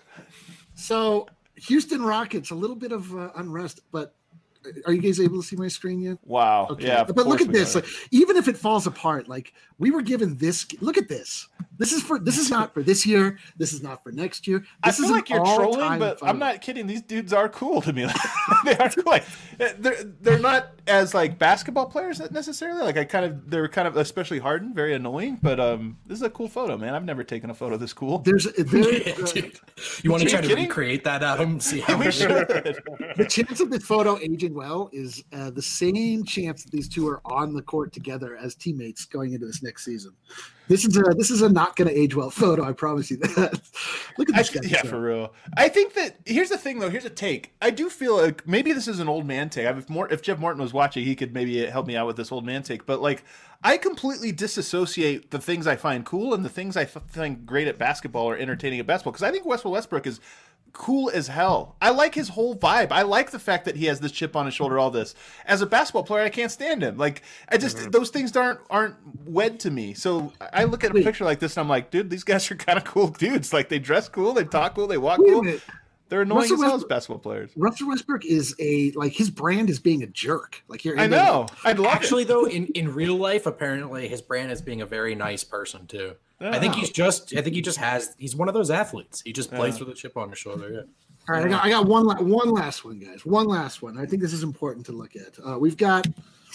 So, Houston Rockets, a little bit of uh, unrest, but are you guys able to see my screen yet? Wow. Okay. Yeah. of but look course at we this. got Like, it. even if it falls apart, like we were given this. Look at this. This is for. This is not for this year. This is not for next year. I This feel is an like you're trolling, all-time but photo. I'm not kidding. These dudes are cool to me. They are cool. Like, they're they're not as like basketball players necessarily. Like I kind of they're kind of especially Harden, very annoying. But um, this is a cool photo, man. I've never taken a photo this cool. There's there, Yeah, uh, dude. You want Are to you try to kidding? recreate that, Adam? See how We it should. the chance of this photo aging well is uh, the same chance that these two are on the court together as teammates going into this next season. This is a this is a not going to age well photo. I promise you that. Look at I this th- guy. yeah, for real. I think that here's the thing, though. Here's a take. I do feel like maybe this is an old man take. If more, if Jeff Martin was watching, he could maybe help me out with this old man take. But like, I completely disassociate the things I find cool and the things I f- find great at basketball or entertaining at basketball. Because I think Russell Westbrook is cool as hell. I like his whole vibe. I like the fact that he has this chip on his shoulder, all this. As a basketball player, I can't stand him. Like, I just, Mm-hmm. those things aren't aren't wed to me. So I look at a Wait. picture like this and I'm like, dude, these guys are kind of cool dudes. Like, they dress cool, they talk cool, they walk Wait a cool. minute. They're annoying Russell as hell as Westbrook- basketball players. Russell Westbrook is a like his brand is being a jerk. Like here, I know. I'd love Actually, it. though, in, in real life, apparently his brand is being a very nice person too. I think he's just. I think he just has. He's one of those athletes. He just plays with a chip on his shoulder. Yeah. All right, I got I got one la- one last one, guys. One last one. I think this is important to look at. Uh, we've got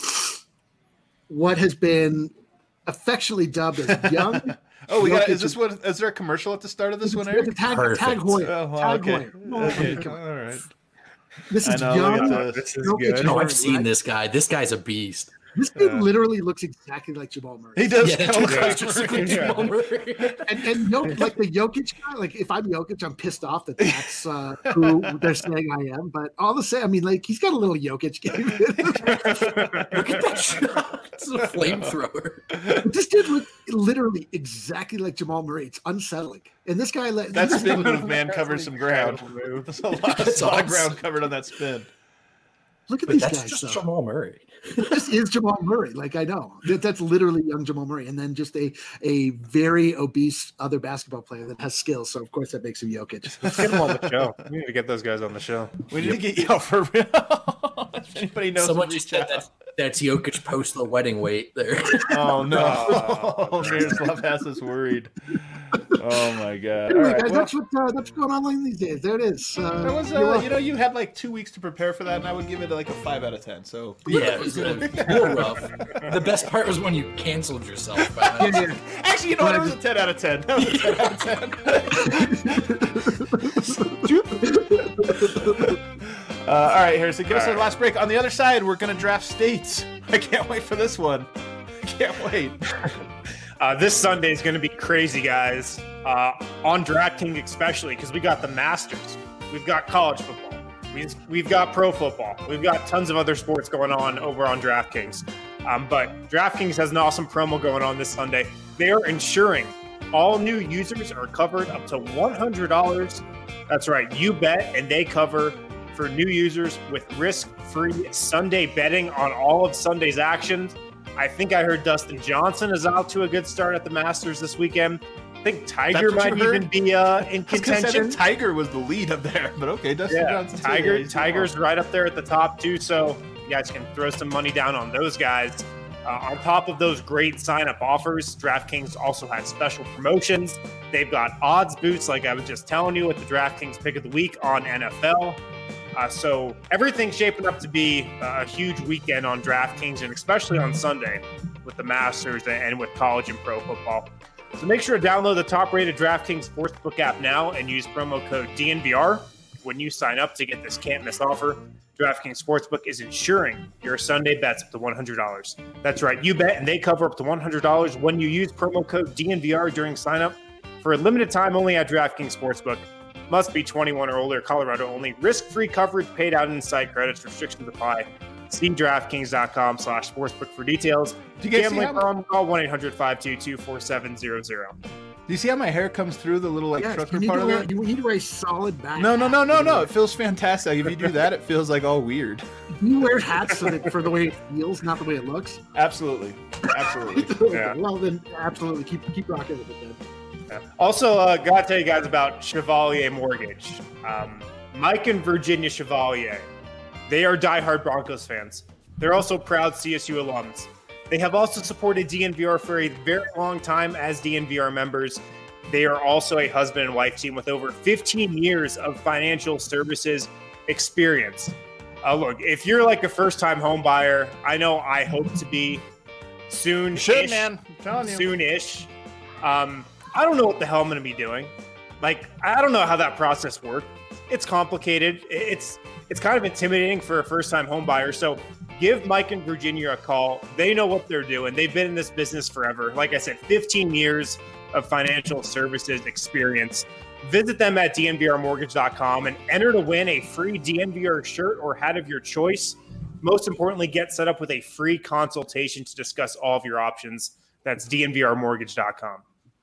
what has been affectionately dubbed as young. Oh, we got. Jokic Is this what? Is there a commercial at the start of this one, We have to Eric? tag, Perfect. tag Hoyer. Oh, well, tag okay. Hoyer. Oh, Okay. come on. All right. This I is know, young. look at This is Jokic good. No, Hoyer, I've seen right? this guy. This guy's a beast. This dude Yeah. literally looks exactly like Jamal Murray. He does Yeah, kind of look dude, like it's just like Murray. Jamal Murray. And, and Jokic, like the Jokic guy, like if I'm Jokic, I'm pissed off that that's uh, who they're saying I am. But all the same, I mean, like he's got a little Jokic game. Look at that shot. It's a flamethrower. This dude looked literally exactly like Jamal Murray. It's unsettling. And this guy, let That spin move, man, covers some ground. There's a lot, That's a lot of awesome. ground covered on that spin. Look at But these that's guys. just though. Jamal Murray. This is Jamal Murray. Like I know that, that's literally young Jamal Murray, and then just a a very obese other basketball player that has skills. So of course that makes him Jokic. Let's get them on the show. We need to get those guys on the show. We need to get you out for real. If anybody knows, Someone to just reach said out. that that's Jokic post the wedding weight there. Oh no, Miroslav has us worried. Oh my god! All Anyway, right, guys, well, that's what uh, that's going on like these days. There it is. Uh, that was, you're uh, welcome. you know, you had like two weeks to prepare for that, and I would give it like a five out of ten. So Yeah, it was a little rough. The best part was when you canceled yourself. By that. Yeah, yeah. actually, you know what? It was a ten out of ten. That was a ten out of ten. uh, all right, Harrison, give us All our right. last break. On the other side, we're gonna draft states. I can't wait for this one. I can't wait. Uh, this Sunday is going to be crazy, guys. Uh, on DraftKings, especially because we got the Masters, we've got college football, we've, we've got pro football, we've got tons of other sports going on over on DraftKings. Um, but DraftKings has an awesome promo going on this Sunday. They are ensuring All new users are covered up to one hundred dollars. That's right, you bet, and they cover for new users with risk-free Sunday betting on all of Sunday's actions. I think I heard Dustin Johnson is out to a good start at the Masters this weekend. I think Tiger might even be uh, in contention. I think Tiger was the lead up there, but okay, Dustin yeah, Johnson. Tiger, yeah, Tiger's right up there at the top too, so you guys can throw some money down on those guys. Uh, on top of those great sign-up offers, DraftKings also has special promotions. They've got odds boosts, like I was just telling you, with the DraftKings Pick of the Week on N F L. Uh, so everything's shaping up to be a huge weekend on DraftKings, and especially on Sunday with the Masters and with college and pro football. So make sure to download the top-rated DraftKings Sportsbook app now and use promo code D N V R when you sign up to get this can't-miss offer. DraftKings Sportsbook is insuring your Sunday bets up to one hundred dollars. That's right, you bet, and they cover up to one hundred dollars when you use promo code D N V R during sign-up. For a limited time only at DraftKings Sportsbook. Must be twenty-one or older, Colorado only. Risk-free coverage paid out inside credits. Restrictions apply. See DraftKings.com slash sportsbook for details. Do you guys Gambling see how problem, call one eight hundred five two two four seven zero zero. Do you see how my hair comes through the little like Yes, trucker you need, part to of wear, it? you need to wear a solid back. No, no, hat. no, no, You no. know, It feels fantastic. If you do that, it feels like all weird. You wear hats so that for the way it feels, not the way it looks. Absolutely, absolutely. Yeah. Well, then absolutely keep keep rocking with it then. Yeah. Also, uh, got to tell you guys about Chevalier Mortgage. Um, Mike and Virginia Chevalier, they are diehard Broncos fans. They're also proud C S U alums. They have also supported D N V R for a very long time as D N V R members. They are also a husband and wife team with over fifteen years of financial services experience. Uh, look, if you're like a first-time home buyer, I know I hope to be soon. Should, man. I'm telling you. Soon-ish. Um, I don't know what the hell I'm going to be doing. Like, I don't know how that process works. It's complicated. It's it's kind of intimidating for a first-time home buyer. So give Mike and Virginia a call. They know what they're doing. They've been in this business forever. Like I said, fifteen years of financial services experience. Visit them at D N V R mortgage dot com and enter to win a free D N V R shirt or hat of your choice. Most importantly, get set up with a free consultation to discuss all of your options. That's D N V R mortgage dot com.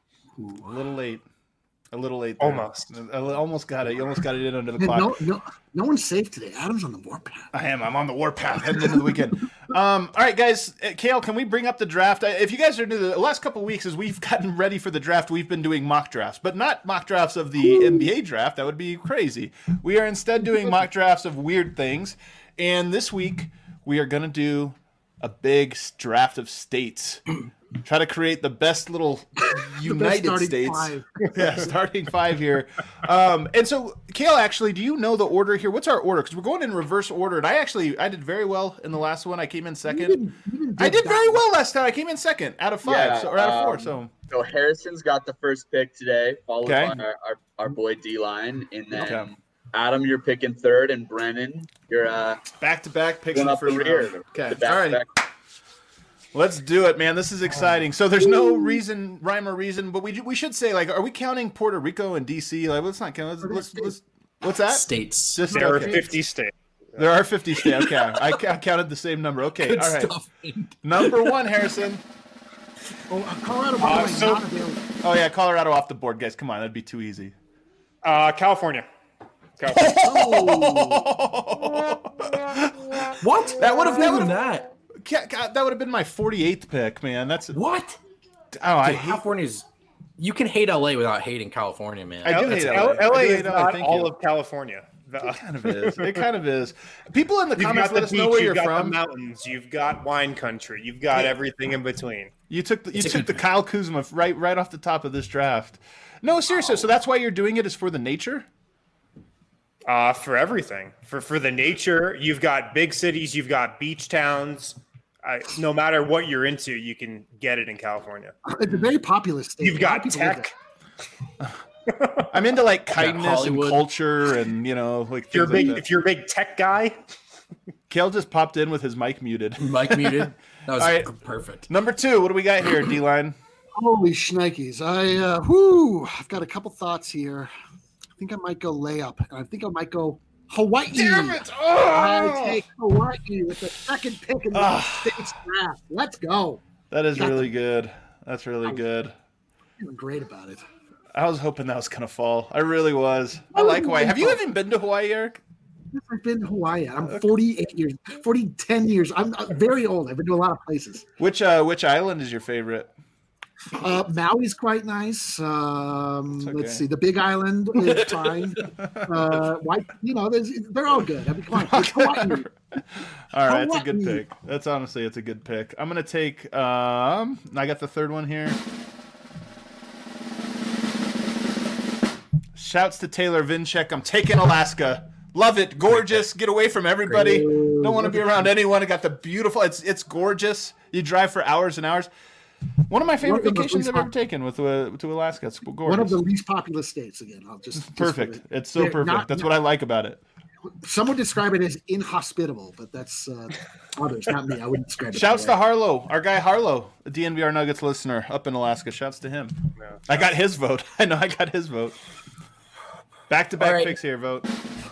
A little late. A little late. There. Almost. I almost got it. You almost got it in under the And clock. no, no, no one's safe today. Adam's on the warpath. I am. I'm on the warpath heading into the weekend. Um, all right, guys. Uh, Kale, can we bring up the draft? I, if you guys are new, the last couple of weeks as we've gotten ready for the draft, we've been doing mock drafts, but not mock drafts of the Ooh. N B A draft. That would be crazy. We are instead doing mock drafts of weird things. And this week, we are going to do a big draft of states. Try to create the best little United best States. Five. Yeah, starting five here. Um, and so, Kale, actually, do you know the order here? What's our order? Because we're going in reverse order. And I actually, I did very well in the last one. I came in second. You didn't, you didn't I did that very one. well last time. I came in second out of five, Yeah, so, or out of four. um, So So Harrison's got the first pick today, followed Okay. by our, our, our boy D-Line. And then Okay. Adam, you're picking third, and Brennan, you're uh, back to back picks in going the up the first rear. round. Okay, The all right. back-to-back. Let's do it, man. This is exciting. So there's no reason, rhyme or reason, but we we should say, like, are we counting Puerto Rico and D C? Like, let's not count. Let's, let's, let's, what's that? States. Just There are okay. fifty states. There are fifty states. Okay, I, I counted the same number. Okay, Good all right. stuff. Number one, Harrison. Oh, uh, Colorado, by Uh, the way, so- not available. Oh yeah, Colorado off the board, guys. Come on, that'd be too easy. Uh, California. California. What? That would've- that Even would've- that. Ca- ca- that would have been my forty-eighth pick, man. That's What? oh, I Dude, hate. California's. You can hate L A without hating California, man. I do It's- hate L- L A. L A I do is hate L A. not Thank all you. of California. The- It kind of is. It kind of is. People in the You've comments got let the us beach, know where you've you're got from. the mountains, you've got wine country, you've got everything in between. You took the, you It's a took the good Kyle Kuzma right right off the top of this draft. No, seriously. So that's why you're doing it is for the nature. Uh, for everything, for for the nature, you've got big cities, you've got beach towns. Uh, no matter what you're into, you can get it in California. It's a very populous state. You've A lot of got people live tech. I'm into like kindness and Hollywood. culture and you know like If you're a things like big, that. if you're a big tech guy, Kale just popped in with his mic muted. Mike muted. That was All right. perfect. Number two, what do we got here, D-line? Holy shnikes. I, uh, whoo, I've got a couple thoughts here. I think I might go layup, and I think I might go Hawaii. Damn it! I Oh! take Hawaii with the second pick in the Ah. state's draft. Let's go. That is really good. That's really good. feeling great about it. I was hoping that was gonna fall. I really was. I like Hawaii. Have you even been to Hawaii, Eric? I've been to Hawaii. I'm forty-eight years, forty, ten years. I'm very old. I've been to a lot of places. Which uh, which island is your favorite? Uh, Maui's quite nice. Um, okay. Let's see. The Big Island is fine. Uh, white, you know, they're all good. I mean, come on. It's Hawaii. All right, it's a good Hawaii. pick. That's honestly, it's a good pick. I'm gonna take. Um, I got the third one here. Shouts to Taylor Vinchek. I'm taking Alaska. Love it. Gorgeous. Get away from everybody. Don't want to be around anyone. I got the beautiful. It's it's gorgeous. You drive for hours and hours. One of my favorite One of the vacations least I've ever pop- taken with uh, to Alaska. It's gorgeous. One of the least populous states. Again, I'll just, just perfect. for- It's so They're perfect. not- That's what I like about it. Some would describe it as inhospitable, but that's uh, others, not me. I wouldn't describe it. Shouts that to way. Harlow, our guy Harlow, a D N V R Nuggets listener up in Alaska. Shouts to him. I got his vote. I know I got his vote. Back to back All right. picks here, vote.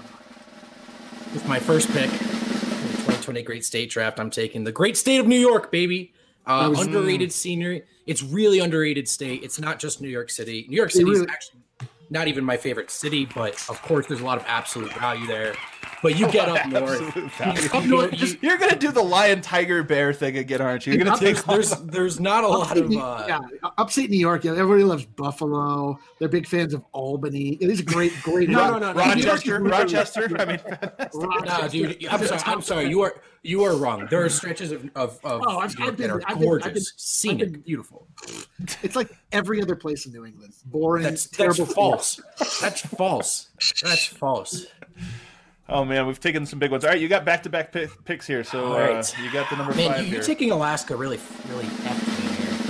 With my first pick in the twenty twenty Great State Draft, I'm taking the great state of New York, baby. Uh, That was- underrated scenery. It's really underrated state. It's not just New York City. New York City is really- actually not even my favorite city, but of course, there's a lot of absolute value there. But you get up north. Absolute value. You- up north, you- You're gonna do the lion, tiger, bear thing again, aren't you? You're gonna take. there's there's not a lot Upstate of New- uh, yeah, upstate New York. Yeah, everybody loves Buffalo. They're big fans of Albany. It is a great, great. No, no, no, no. Rochester, Rochester. I mean, No, dude, I'm sorry. I'm sorry. You are you are wrong. There are stretches of of, of Oh, I've- New York I've been- that are I've been- gorgeous, I've been- scenic, I've been- beautiful. It's like every other place in New England. Boring. That's that's terrible. false. That's false. That's false. oh man, we've taken some big ones. All right, you got back to back picks here, so All uh, right. you got the number Man, five you, here. you're taking Alaska really, really effed me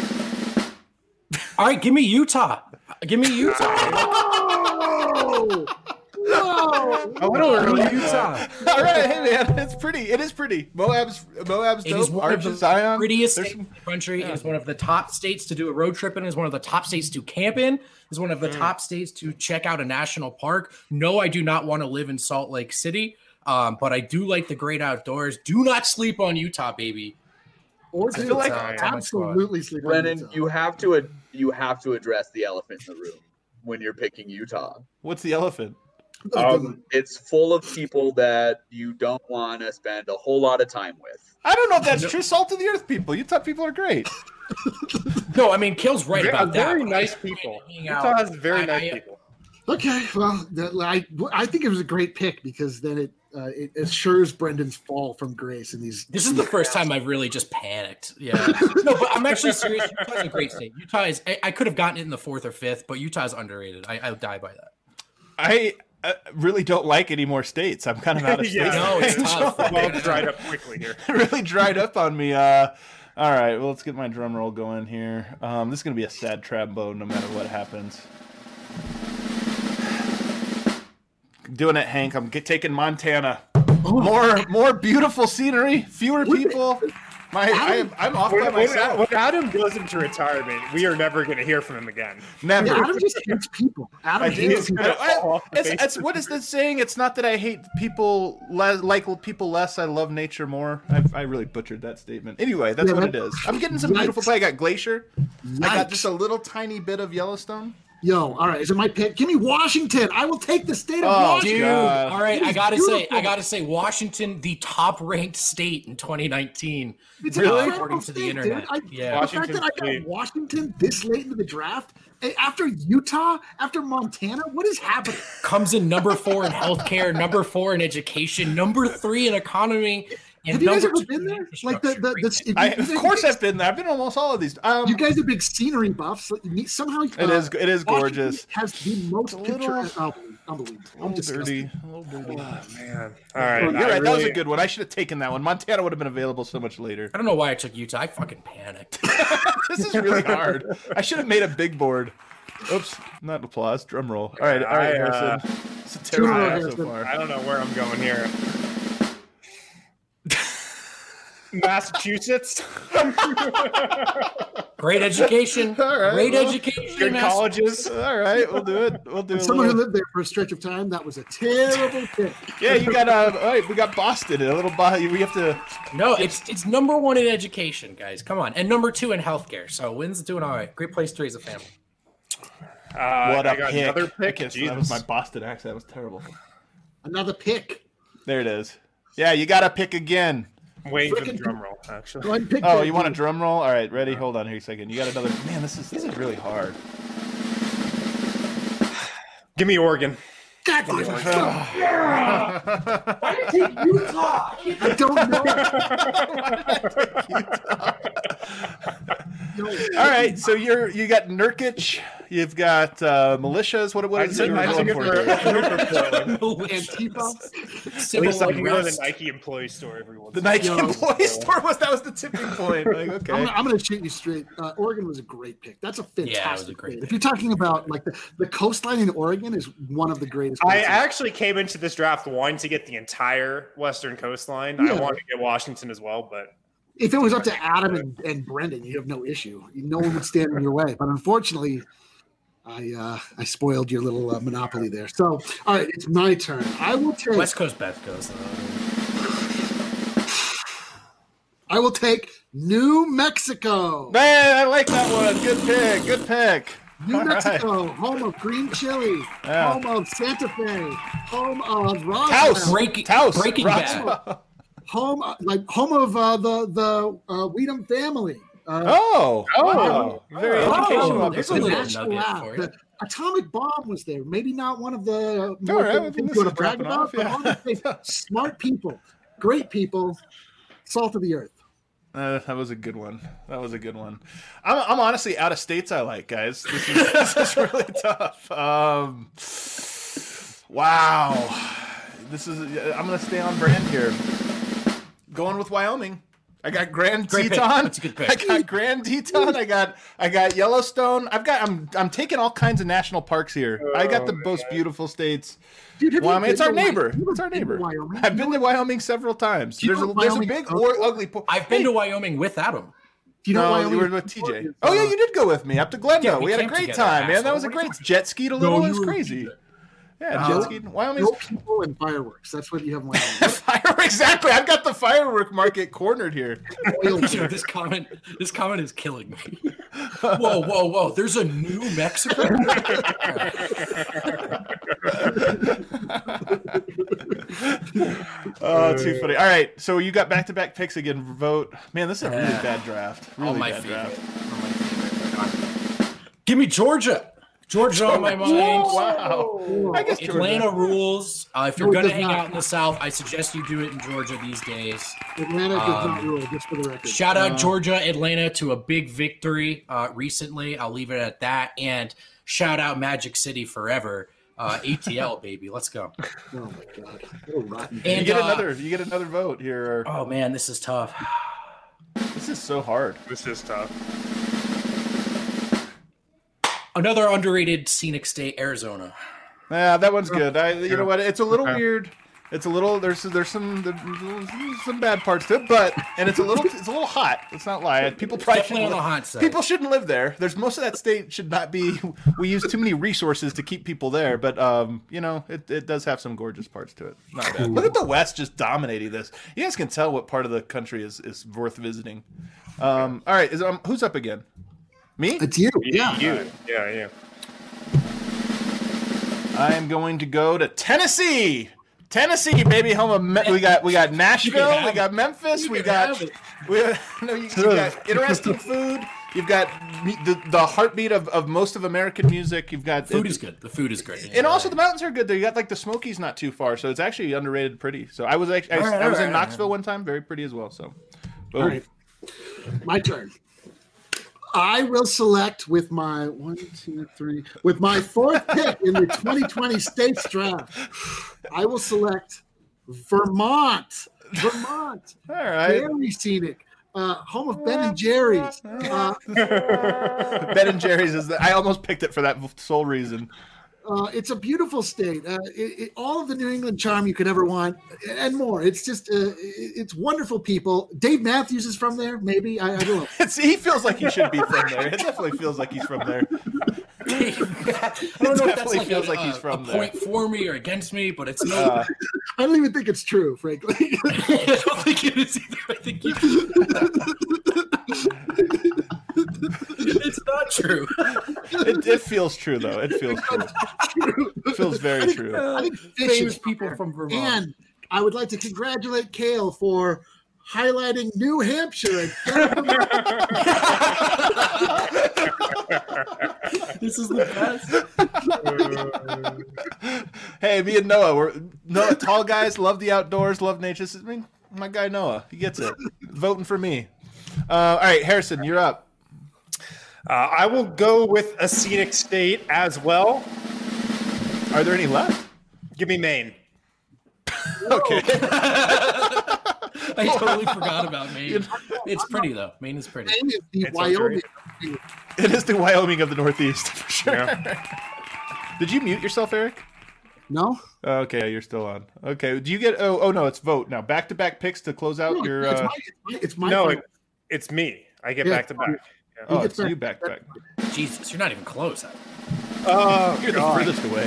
here. All right, give me Utah. Give me Utah. Oh! Whoa! A little Give me early. Utah. All right, hey man, it's pretty. It is pretty. Moab's Moab's It dope. is one Arch of the of Zion. prettiest There's states in some- the country. It is one of the top states to do a road trip in. It is one of the top states to camp in. It is one of the top states to check out a national park. No, I do not want to live in Salt Lake City, um, but I do like the great outdoors. Do not sleep on Utah, baby. Or I do feel like- uh, absolutely sleep on Brennan, Utah. you have to ad- you have to address the elephant in the room when you're picking Utah. What's the elephant? Um, it's full of people that you don't want to spend a whole lot of time with. I don't know if that's true. Salt of the earth people. Utah people are great. No, I mean, Kill's right Very, about that. very but nice I- people. hang out. Utah has very I- nice I- people. Okay, well, that, I I think it was a great pick because then it uh, it assures Brendan's fall from grace in these. This is the first time I've really just panicked. Yeah. No, but I'm actually serious. Utah's a great state. Utah is, I, I could have gotten it in the fourth or fifth, but Utah's underrated. I, I'll die by that. I uh, really don't like any more states. I'm kind of out of Yeah. states. No, it's tough. Well, dried up quickly here. It really dried up on me. Uh, all right, well, let's get my drum roll going here. Um, this is going to be a sad trombone no matter what happens. Doing it, Hank. I'm get, taking Montana. More, more beautiful scenery, fewer people. My, I am, I'm off by When, when, myself. when Adam goes into retirement, we are never going to hear from him again. Never. Yeah, Adam just hates people. Adam I hates do. people. gonna I- fall off the it's, face it's of what the is this saying? It's not that I hate people le- like people less. I love nature more. I, I really butchered that statement. Anyway, that's Yeah, what it that- is. I'm getting some beautiful Yikes. play. I got Glacier. I got Yikes. just a little tiny bit of Yellowstone. Yo, all right, is it my pick? Give me Washington. I will take the state of Oh, Washington. Dude, God. all right, It I is gotta say, beautiful. I gotta say, Washington, the top-ranked state in twenty nineteen. It's Really? incredible According to the state, internet. dude. I, Yeah. the fact that I got Washington's Washington this late into the draft, eh, after Utah, after Montana, what is happening? Comes in number four in healthcare, number four in education, number three in economy, and Have you guys number ever two been in there? Like the, the, infrastructure. the if you- I, you of guys- course, I've been there. I've been to almost all of these. Um, You guys are big scenery buffs. Like, you- Somehow It is- it is gorgeous. Has the most a little- picture. Oh, unbelievable! a I'm little dirty. disgusted. A little dirty. Man. All right. You're I right. That was really- a good one. I should have taken that one. Montana would have been available so much later. I don't know why I took Utah. I fucking panicked. This is really hard. I should have made a big board. Oops, not applause. Drum roll. All right, all right, I, uh, Harrison. It's a terrible Drum roll, one so Harrison. far. I don't know where I'm going here. Massachusetts. Great education. All right, Great well, education. Good in colleges. All right, we'll do it. We'll do As it. someone who lived there for a stretch of time, that was a terrible pick. Yeah, you got. Uh, all right, we got Boston. A little. Bo- we have to. No, it's it's number one in education, guys. Come on, and number two in healthcare. So Wynn's doing all right. Great place to raise a family. Uh, What I a got pick. another pick. Okay, so that was my Jesus. Boston accent. That was terrible. Another pick. There it is. Yeah, you got to pick again. I'm waiting for the Frickin- drum roll, actually. Go ahead and pick Oh, that, you want a dude. drum roll? All right, ready? Hold on here a second. You got another. Man, this is this is really hard. Give me Oregon. God damn it. Why did you take Utah? I don't know. All right, so you're you got Nurkic, you've got uh, militias. What what is it? I I'm took going it for for- here? Antifa. At Civil least I can go to the unrest. Nike employee store every once The in a while. Nike Yo. employee store was that was the tipping point. Like, I'm okay, gonna, I'm gonna shoot you straight. Uh, Oregon was a great pick. That's a fantastic Yeah, it was a great pick. pick. If you're talking about like the, the coastline in Oregon is one of the greatest. I places. actually came into this draft wanting to get the entire western coastline. Yeah. I wanted to get Washington as well, but if it was up to Adam and, and Brendan, you have no issue. No one would stand in your way. But unfortunately, I uh, I spoiled your little uh, monopoly there. So, all right, it's my turn. I will take. West Coast, Best Coast. I will take New Mexico. man, I like that one. Good pick. Good pick. New All right. Mexico, home of green chili, Yeah. home of Santa Fe, home of Roswell, Taos. Breaking, Taos. Breaking Roswell. Bad. home uh, like home of uh, the the uh, Weedham family. Uh, Oh, Oh. wow. Very Oh, educational there's a episode. the little National nugget Lab, for the you. atomic bomb was there. Maybe not one of the uh, more All right, things well, things this you is want to brag dropping about, off, but yeah. all the things, smart people, great people, salt of the earth. Uh, that was a good one. That was a good one. I'm, I'm honestly out of states I like, guys. This is, this is really tough. Um, wow. This is. I'm gonna stay on brand here. Going with Wyoming. I got Grand Great pick. Teton. That's a good pick. I got Grand Teton. I got I got Yellowstone. I've got. I'm I'm taking all kinds of national parks here. I got the most beautiful states. Dude, have you Wyoming. been It's our to Wy- neighbor. have you It's our ever been to neighbor. Wyoming? I've been to Wyoming several times. Do you There's know a what there's a Wyoming big is or, for? ugly. Po- I've been Hey, to Wyoming with Adam. Do you know no, Wyoming you were is with T for? J. Is, Oh yeah, uh, you did go with me up to Glendale. Yeah, we we had a camped great together, time, man. That asshole. was a What are you great jet skied a No, little. It you was were- crazy. Yeah, No. jet skied. Wyoming's no people and fireworks. That's what you have in Wyoming. fire. Exactly. I've got the firework market cornered here. Oil Dude, this comment, this comment is killing me. Whoa, whoa, whoa! There's a New Mexico. Oh, too funny. All right, so you got back to back picks again. Vote. Man, this is a really Yeah. bad draft. Really All my bad favorite. draft. All my favorite. Give me Georgia. Georgia on my mind. Wow. I guess Atlanta Georgia. rules. Uh, if you're No, it gonna does hang not. out in the South, I suggest you do it in Georgia these days. Atlanta does not Um, rule, just for the record. Shout out Uh, Georgia, Atlanta to a big victory uh, recently. I'll leave it at that. And shout out Magic City forever. Uh, A T L baby, let's go. Oh my god, what a rotten. You And get uh, another. You get another vote here. oh man, this is tough. This is so hard. this is tough. Another underrated scenic state, Arizona. Yeah, that one's good. I, you know what? It's a little Okay. weird. It's a little. There's there's some there's some bad parts to it, but and it's a little it's a little hot. Let's not lie. People probably Definitely on shouldn't the li- hot side. people shouldn't live there. There's most of that state should not be. We use too many resources to keep people there, but um, you know, it, it does have some gorgeous parts to it. Not bad. Look at the West just dominating this. You guys can tell what part of the country is is worth visiting. Um, all right, is um, who's up again? Me? It's you. Yeah. You. Yeah, yeah. I am going to go to Tennessee. Tennessee, baby, home of Me- we got we got Nashville, we got Memphis, we got we no, you, you got interesting food. You've got me- the the heartbeat of, of most of American music. You've got Food is good. The food is great. and also the mountains are good there. You got like the Smokies not too far, so it's actually underrated pretty. So I was actually I, All right, I was all in right, Knoxville one time, very pretty as well. So, boom. All right. My turn. I will select with my one, two, three, with my fourth pick in the twenty twenty states draft. I will select Vermont. Vermont. All right, Very scenic. Uh, home of Ben and Jerry's. Uh, Ben and Jerry's is. The, I almost picked it for that sole reason. Uh, it's a beautiful state. Uh, it, it, all of the New England charm you could ever want, and more. It's just, uh, it, it's wonderful people. Dave Matthews is from there. Maybe I, I don't know. It's, he feels like he should be from there. It definitely feels like he's from there. I don't know if that's definitely like feels a, like he's a- from a there. point for me or against me, but it's no. Uh, I don't even think it's true, frankly. I don't think it is either. I think you. it's not true. it, it feels true though. It feels true. It feels very true. I think fish Famous is people fair. from Vermont. And I would like to congratulate Kale for highlighting New Hampshire. This is the best. Hey, me and Noah, we're Noah, tall guys, love the outdoors, love nature. This is me, my guy Noah. He gets it. Voting for me. Uh, all right, Harrison, you're up. Uh, I will go with a scenic state as well. Are there any left? Give me Maine. Okay. I totally forgot about Maine. It's pretty though. Maine is pretty. Maine is the It's Wyoming. It is the Wyoming of the Northeast for sure. Yeah. Did you mute yourself, Eric? No? Oh, okay, yeah, you're still on. Okay, do you get? Oh, oh no, it's vote now. Back to back picks to close out No, your. it's, Uh, my, it's my. It's my No, final. it, it's me. I get Yeah, back to back. Yeah. oh, get it's back- you back to back. Jesus, you're not even close. Oh, You're the God. furthest away.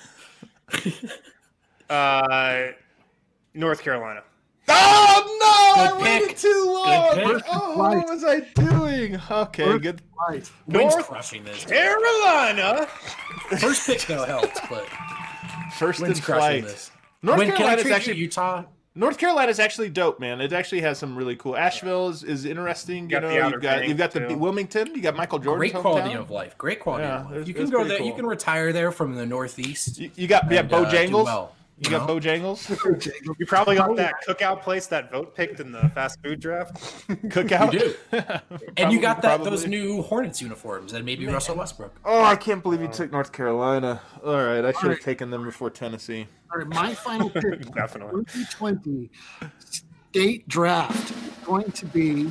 Uh, North Carolina. Oh no! Good I waited pick. too long. Good pick. Oh, what was I doing? Okay, good. Right. Wind's North crushing this. Carolina. First pick though helped, but First in wind's crushing flight. this. North When can I Carolina's trade you actually Utah? North Carolina's actually dope, man. It actually has some really cool. Asheville is, is interesting. You Got know, the Outer you've got Banks, you've got the too. Wilmington. You got Michael Jordan's Great quality hometown. of life. Great quality Yeah, of life. it's- You can it's go pretty there. cool. You can retire there from the Northeast. You, you got yeah, and, uh, do Bojangles. well, you you got know? Bojangles. You probably got that cookout place that vote picked in the fast food draft. Cookout. You do. And you got that Probably. those new Hornets uniforms and maybe Russell Westbrook. Oh, I can't believe you took North Carolina. All right, I should have right. taken them before Tennessee. All right, my final pick. Definitely. twenty twenty state draft is going to be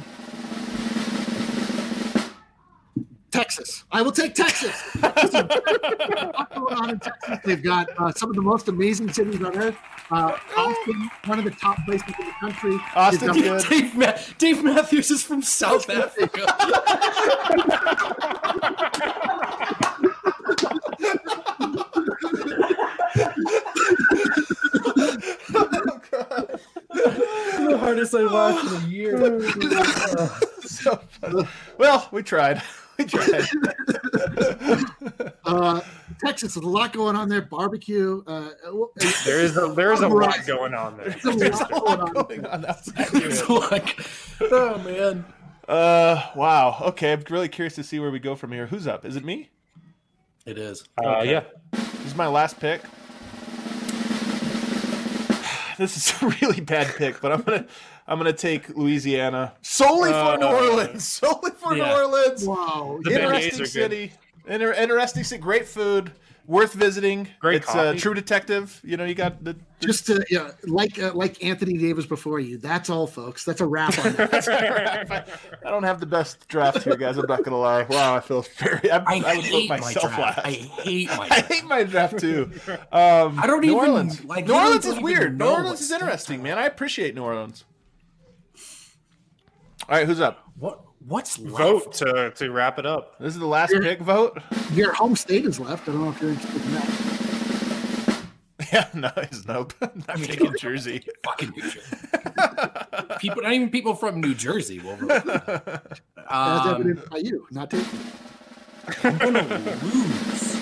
Texas. I will take Texas. What's going on in Texas? They've got uh, some of the most amazing cities on earth. Uh, Austin, one of the top places in the country. Austin's They've got- good. Dave, Ma- Dave Matthews is from South Africa. The hardest I watched in a year. So funny. Well, we tried. We tried. Uh, Texas, there's a lot going on there. Barbecue. Uh, There is a there is a lot going on there. there's a lot going on. Going on outside. It's like, oh man. Uh, wow. Okay, I'm really curious to see where we go from here. Who's up? Is it me? It is. Uh, yeah. This is my last pick. This is a really bad pick, but I'm gonna I'm gonna take Louisiana solely for Uh, New Orleans. Solely for yeah. New Orleans. Wow. The beignets Interesting are city. Inter- interesting city. Great food. Worth visiting. Great It's uh, coffee. True Detective. You know, you got the. Just to, yeah, like uh, like Anthony Davis before you. That's all, folks. That's a wrap on that. I don't have the best draft here, guys. I'm not gonna lie. Wow, I feel very. I, I, I would vote hate my myself draft. last. I hate my I draft. hate my draft too. Um, I don't New even, Orleans. like, New you Orleans don't is even weird. New know Orleans what is state interesting, I'm man. I appreciate New Orleans. All right, who's up? What what's left? Vote to to wrap it up. This is the last pick. Vote. Your home state is left. I don't know if you're interested in that. Yeah, no, it's nope. I'm mean, taking Jersey. Fucking New Jersey. People, not even people from New Jersey will vote. That's Um, evident by you, not taking. I'm gonna lose.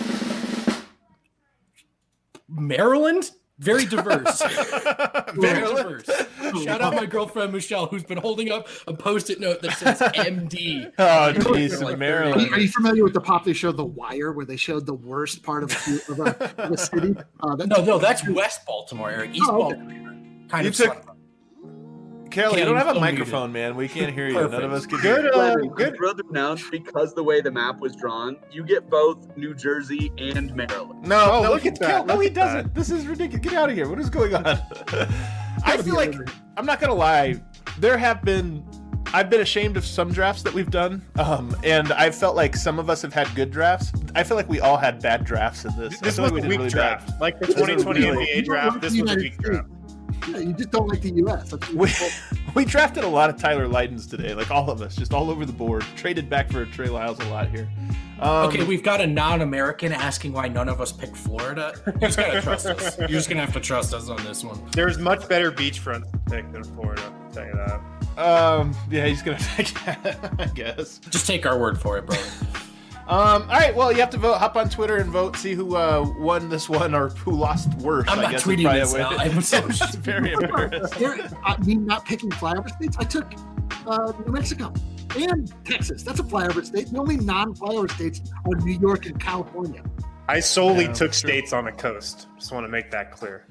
Maryland, very diverse. Very diverse. Shout out my girlfriend Michelle, who's been holding up a post-it note that says M D. Oh, geez, Like, Are Maryland. you, are you familiar with the popular show The Wire, where they showed the worst part of a, of a, of a city? Uh, that, No, no, that's West Baltimore, Eric. East Oh, okay. Baltimore. Kind You of. took- suck. Kelly, you Can't don't have a even unmute microphone, man. We can't hear you. None of Perfect. us can Good, hear you. uh, Good. good. Further announced because the way the map was drawn, you get both New Jersey and Maryland. No, Oh, no, look look at at that, Kel. No, look he at doesn't. This is ridiculous. Get out of here. What is going on? I Gotta feel be like over it. I'm not gonna lie. There have been. I've been ashamed of some drafts that we've done, um, and I felt like some of us have had good drafts. I feel like we all had bad drafts in this. I This feel was like a we weak did really draft. bad. Like the This is twenty twenty really- N B A draft, this was a weak draft. Yeah, you just don't like the U S. That's We, we drafted a lot of Tyler Lydens today, like all of us, just all over the board. Traded back for Trey Lyles a lot here. Um, Okay, we've got a non-American asking why none of us picked Florida. You just gotta trust us. You're just gonna have to trust us on this one. There's much better beachfront pick than Florida. I'll tell you that. um, yeah, he's gonna. I guess. Just take our word for it, bro. Um, all right, well, you have to vote. Hop on Twitter and vote. See who uh, won this one or who lost worse. I'm I not guess tweeting this now. I'm so It's very embarrassing. There- I mean, not picking flyover states. I took uh, New Mexico and Texas. That's a flyover state. The only non-flyover states are New York and California. I solely Yeah, took true. states on the coast. Just want to make that clear.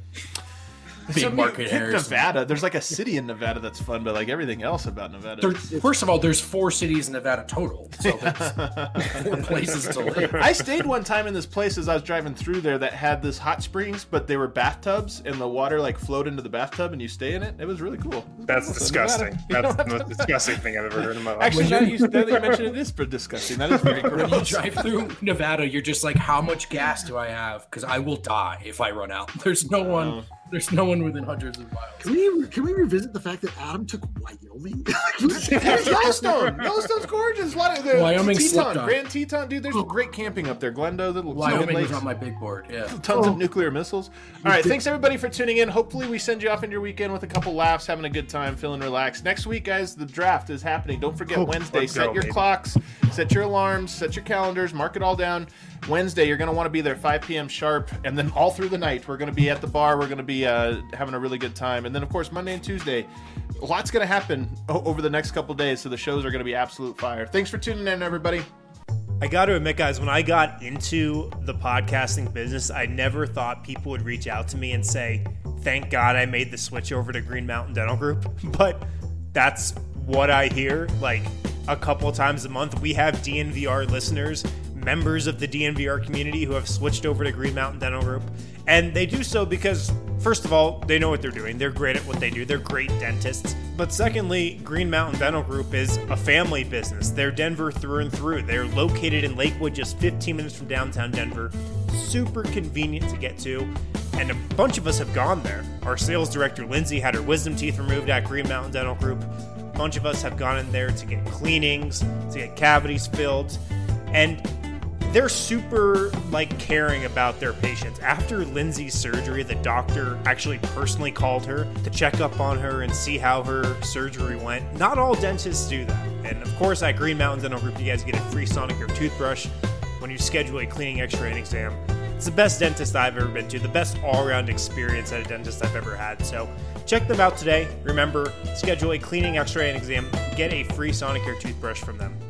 Big So, I mean, market pick Harrison. Nevada. There's like a city in Nevada that's fun, but like everything else about Nevada. There, first of all, there's four cities in Nevada total, so there's four places to live. I stayed one time in this place as I was driving through there that had this hot springs, but they were bathtubs, and the water like flowed into the bathtub, and you stay in it. It was really cool. That's So disgusting. Nevada- That's the most disgusting thing I've ever heard in my life. Actually, now, you, now that you mention it, it is pretty disgusting. That is very When you gross. drive through Nevada, you're just like, how much gas do I have? Because I will die if I run out. There's no one. There's no one within hundreds of miles. Can we can we revisit the fact that Adam took Wyoming? There's Yellowstone. Yellowstone's gorgeous. A lot of the Wyoming Teton, slept on. Grand Teton, dude. There's great camping up there. Glendo, the Wyoming Lakes. was on my big board. Yeah. Tons of nuclear missiles. All right, thanks everybody for tuning in. Hopefully, we send you off into your weekend with a couple laughs, having a good time, feeling relaxed. Next week, guys, the draft is happening. Don't forget Oh, Wednesday. let's Set go, your baby. clocks, set your alarms, set your calendars, mark it all down. Wednesday, you're going to want to be there five p.m. sharp, and then all through the night, we're going to be at the bar. We're going to be uh, having a really good time, and then of course Monday and Tuesday, a lot's going to happen o- over the next couple days. So the shows are going to be absolute fire. Thanks for tuning in, everybody. I got to admit, guys, when I got into the podcasting business, I never thought people would reach out to me and say, thank God I made the switch over to Green Mountain Dental Group. But that's what I hear. Like a couple times a month, we have D N V R listeners, members of the D N V R community who have switched over to Green Mountain Dental Group. And they do so because, first of all, they know what they're doing. They're great at what they do. They're great dentists. But secondly, Green Mountain Dental Group is a family business. They're Denver through and through. They're located in Lakewood, just fifteen minutes from downtown Denver. Super convenient to get to. And a bunch of us have gone there. Our sales director, Lindsay, had her wisdom teeth removed at Green Mountain Dental Group. A bunch of us have gone in there to get cleanings, to get cavities filled. And they're super like caring about their patients. After Lindsay's surgery, the doctor actually personally called her to check up on her and see how her surgery went. Not all dentists do that. And of course, at Green Mountain Dental Group, you guys get a free Sonicare toothbrush when you schedule a cleaning, x-ray, and exam. It's the best dentist I've ever been to, the best all-around experience at a dentist I've ever had. So check them out today. Remember, schedule a cleaning, x-ray, and exam. Get a free Sonicare toothbrush from them.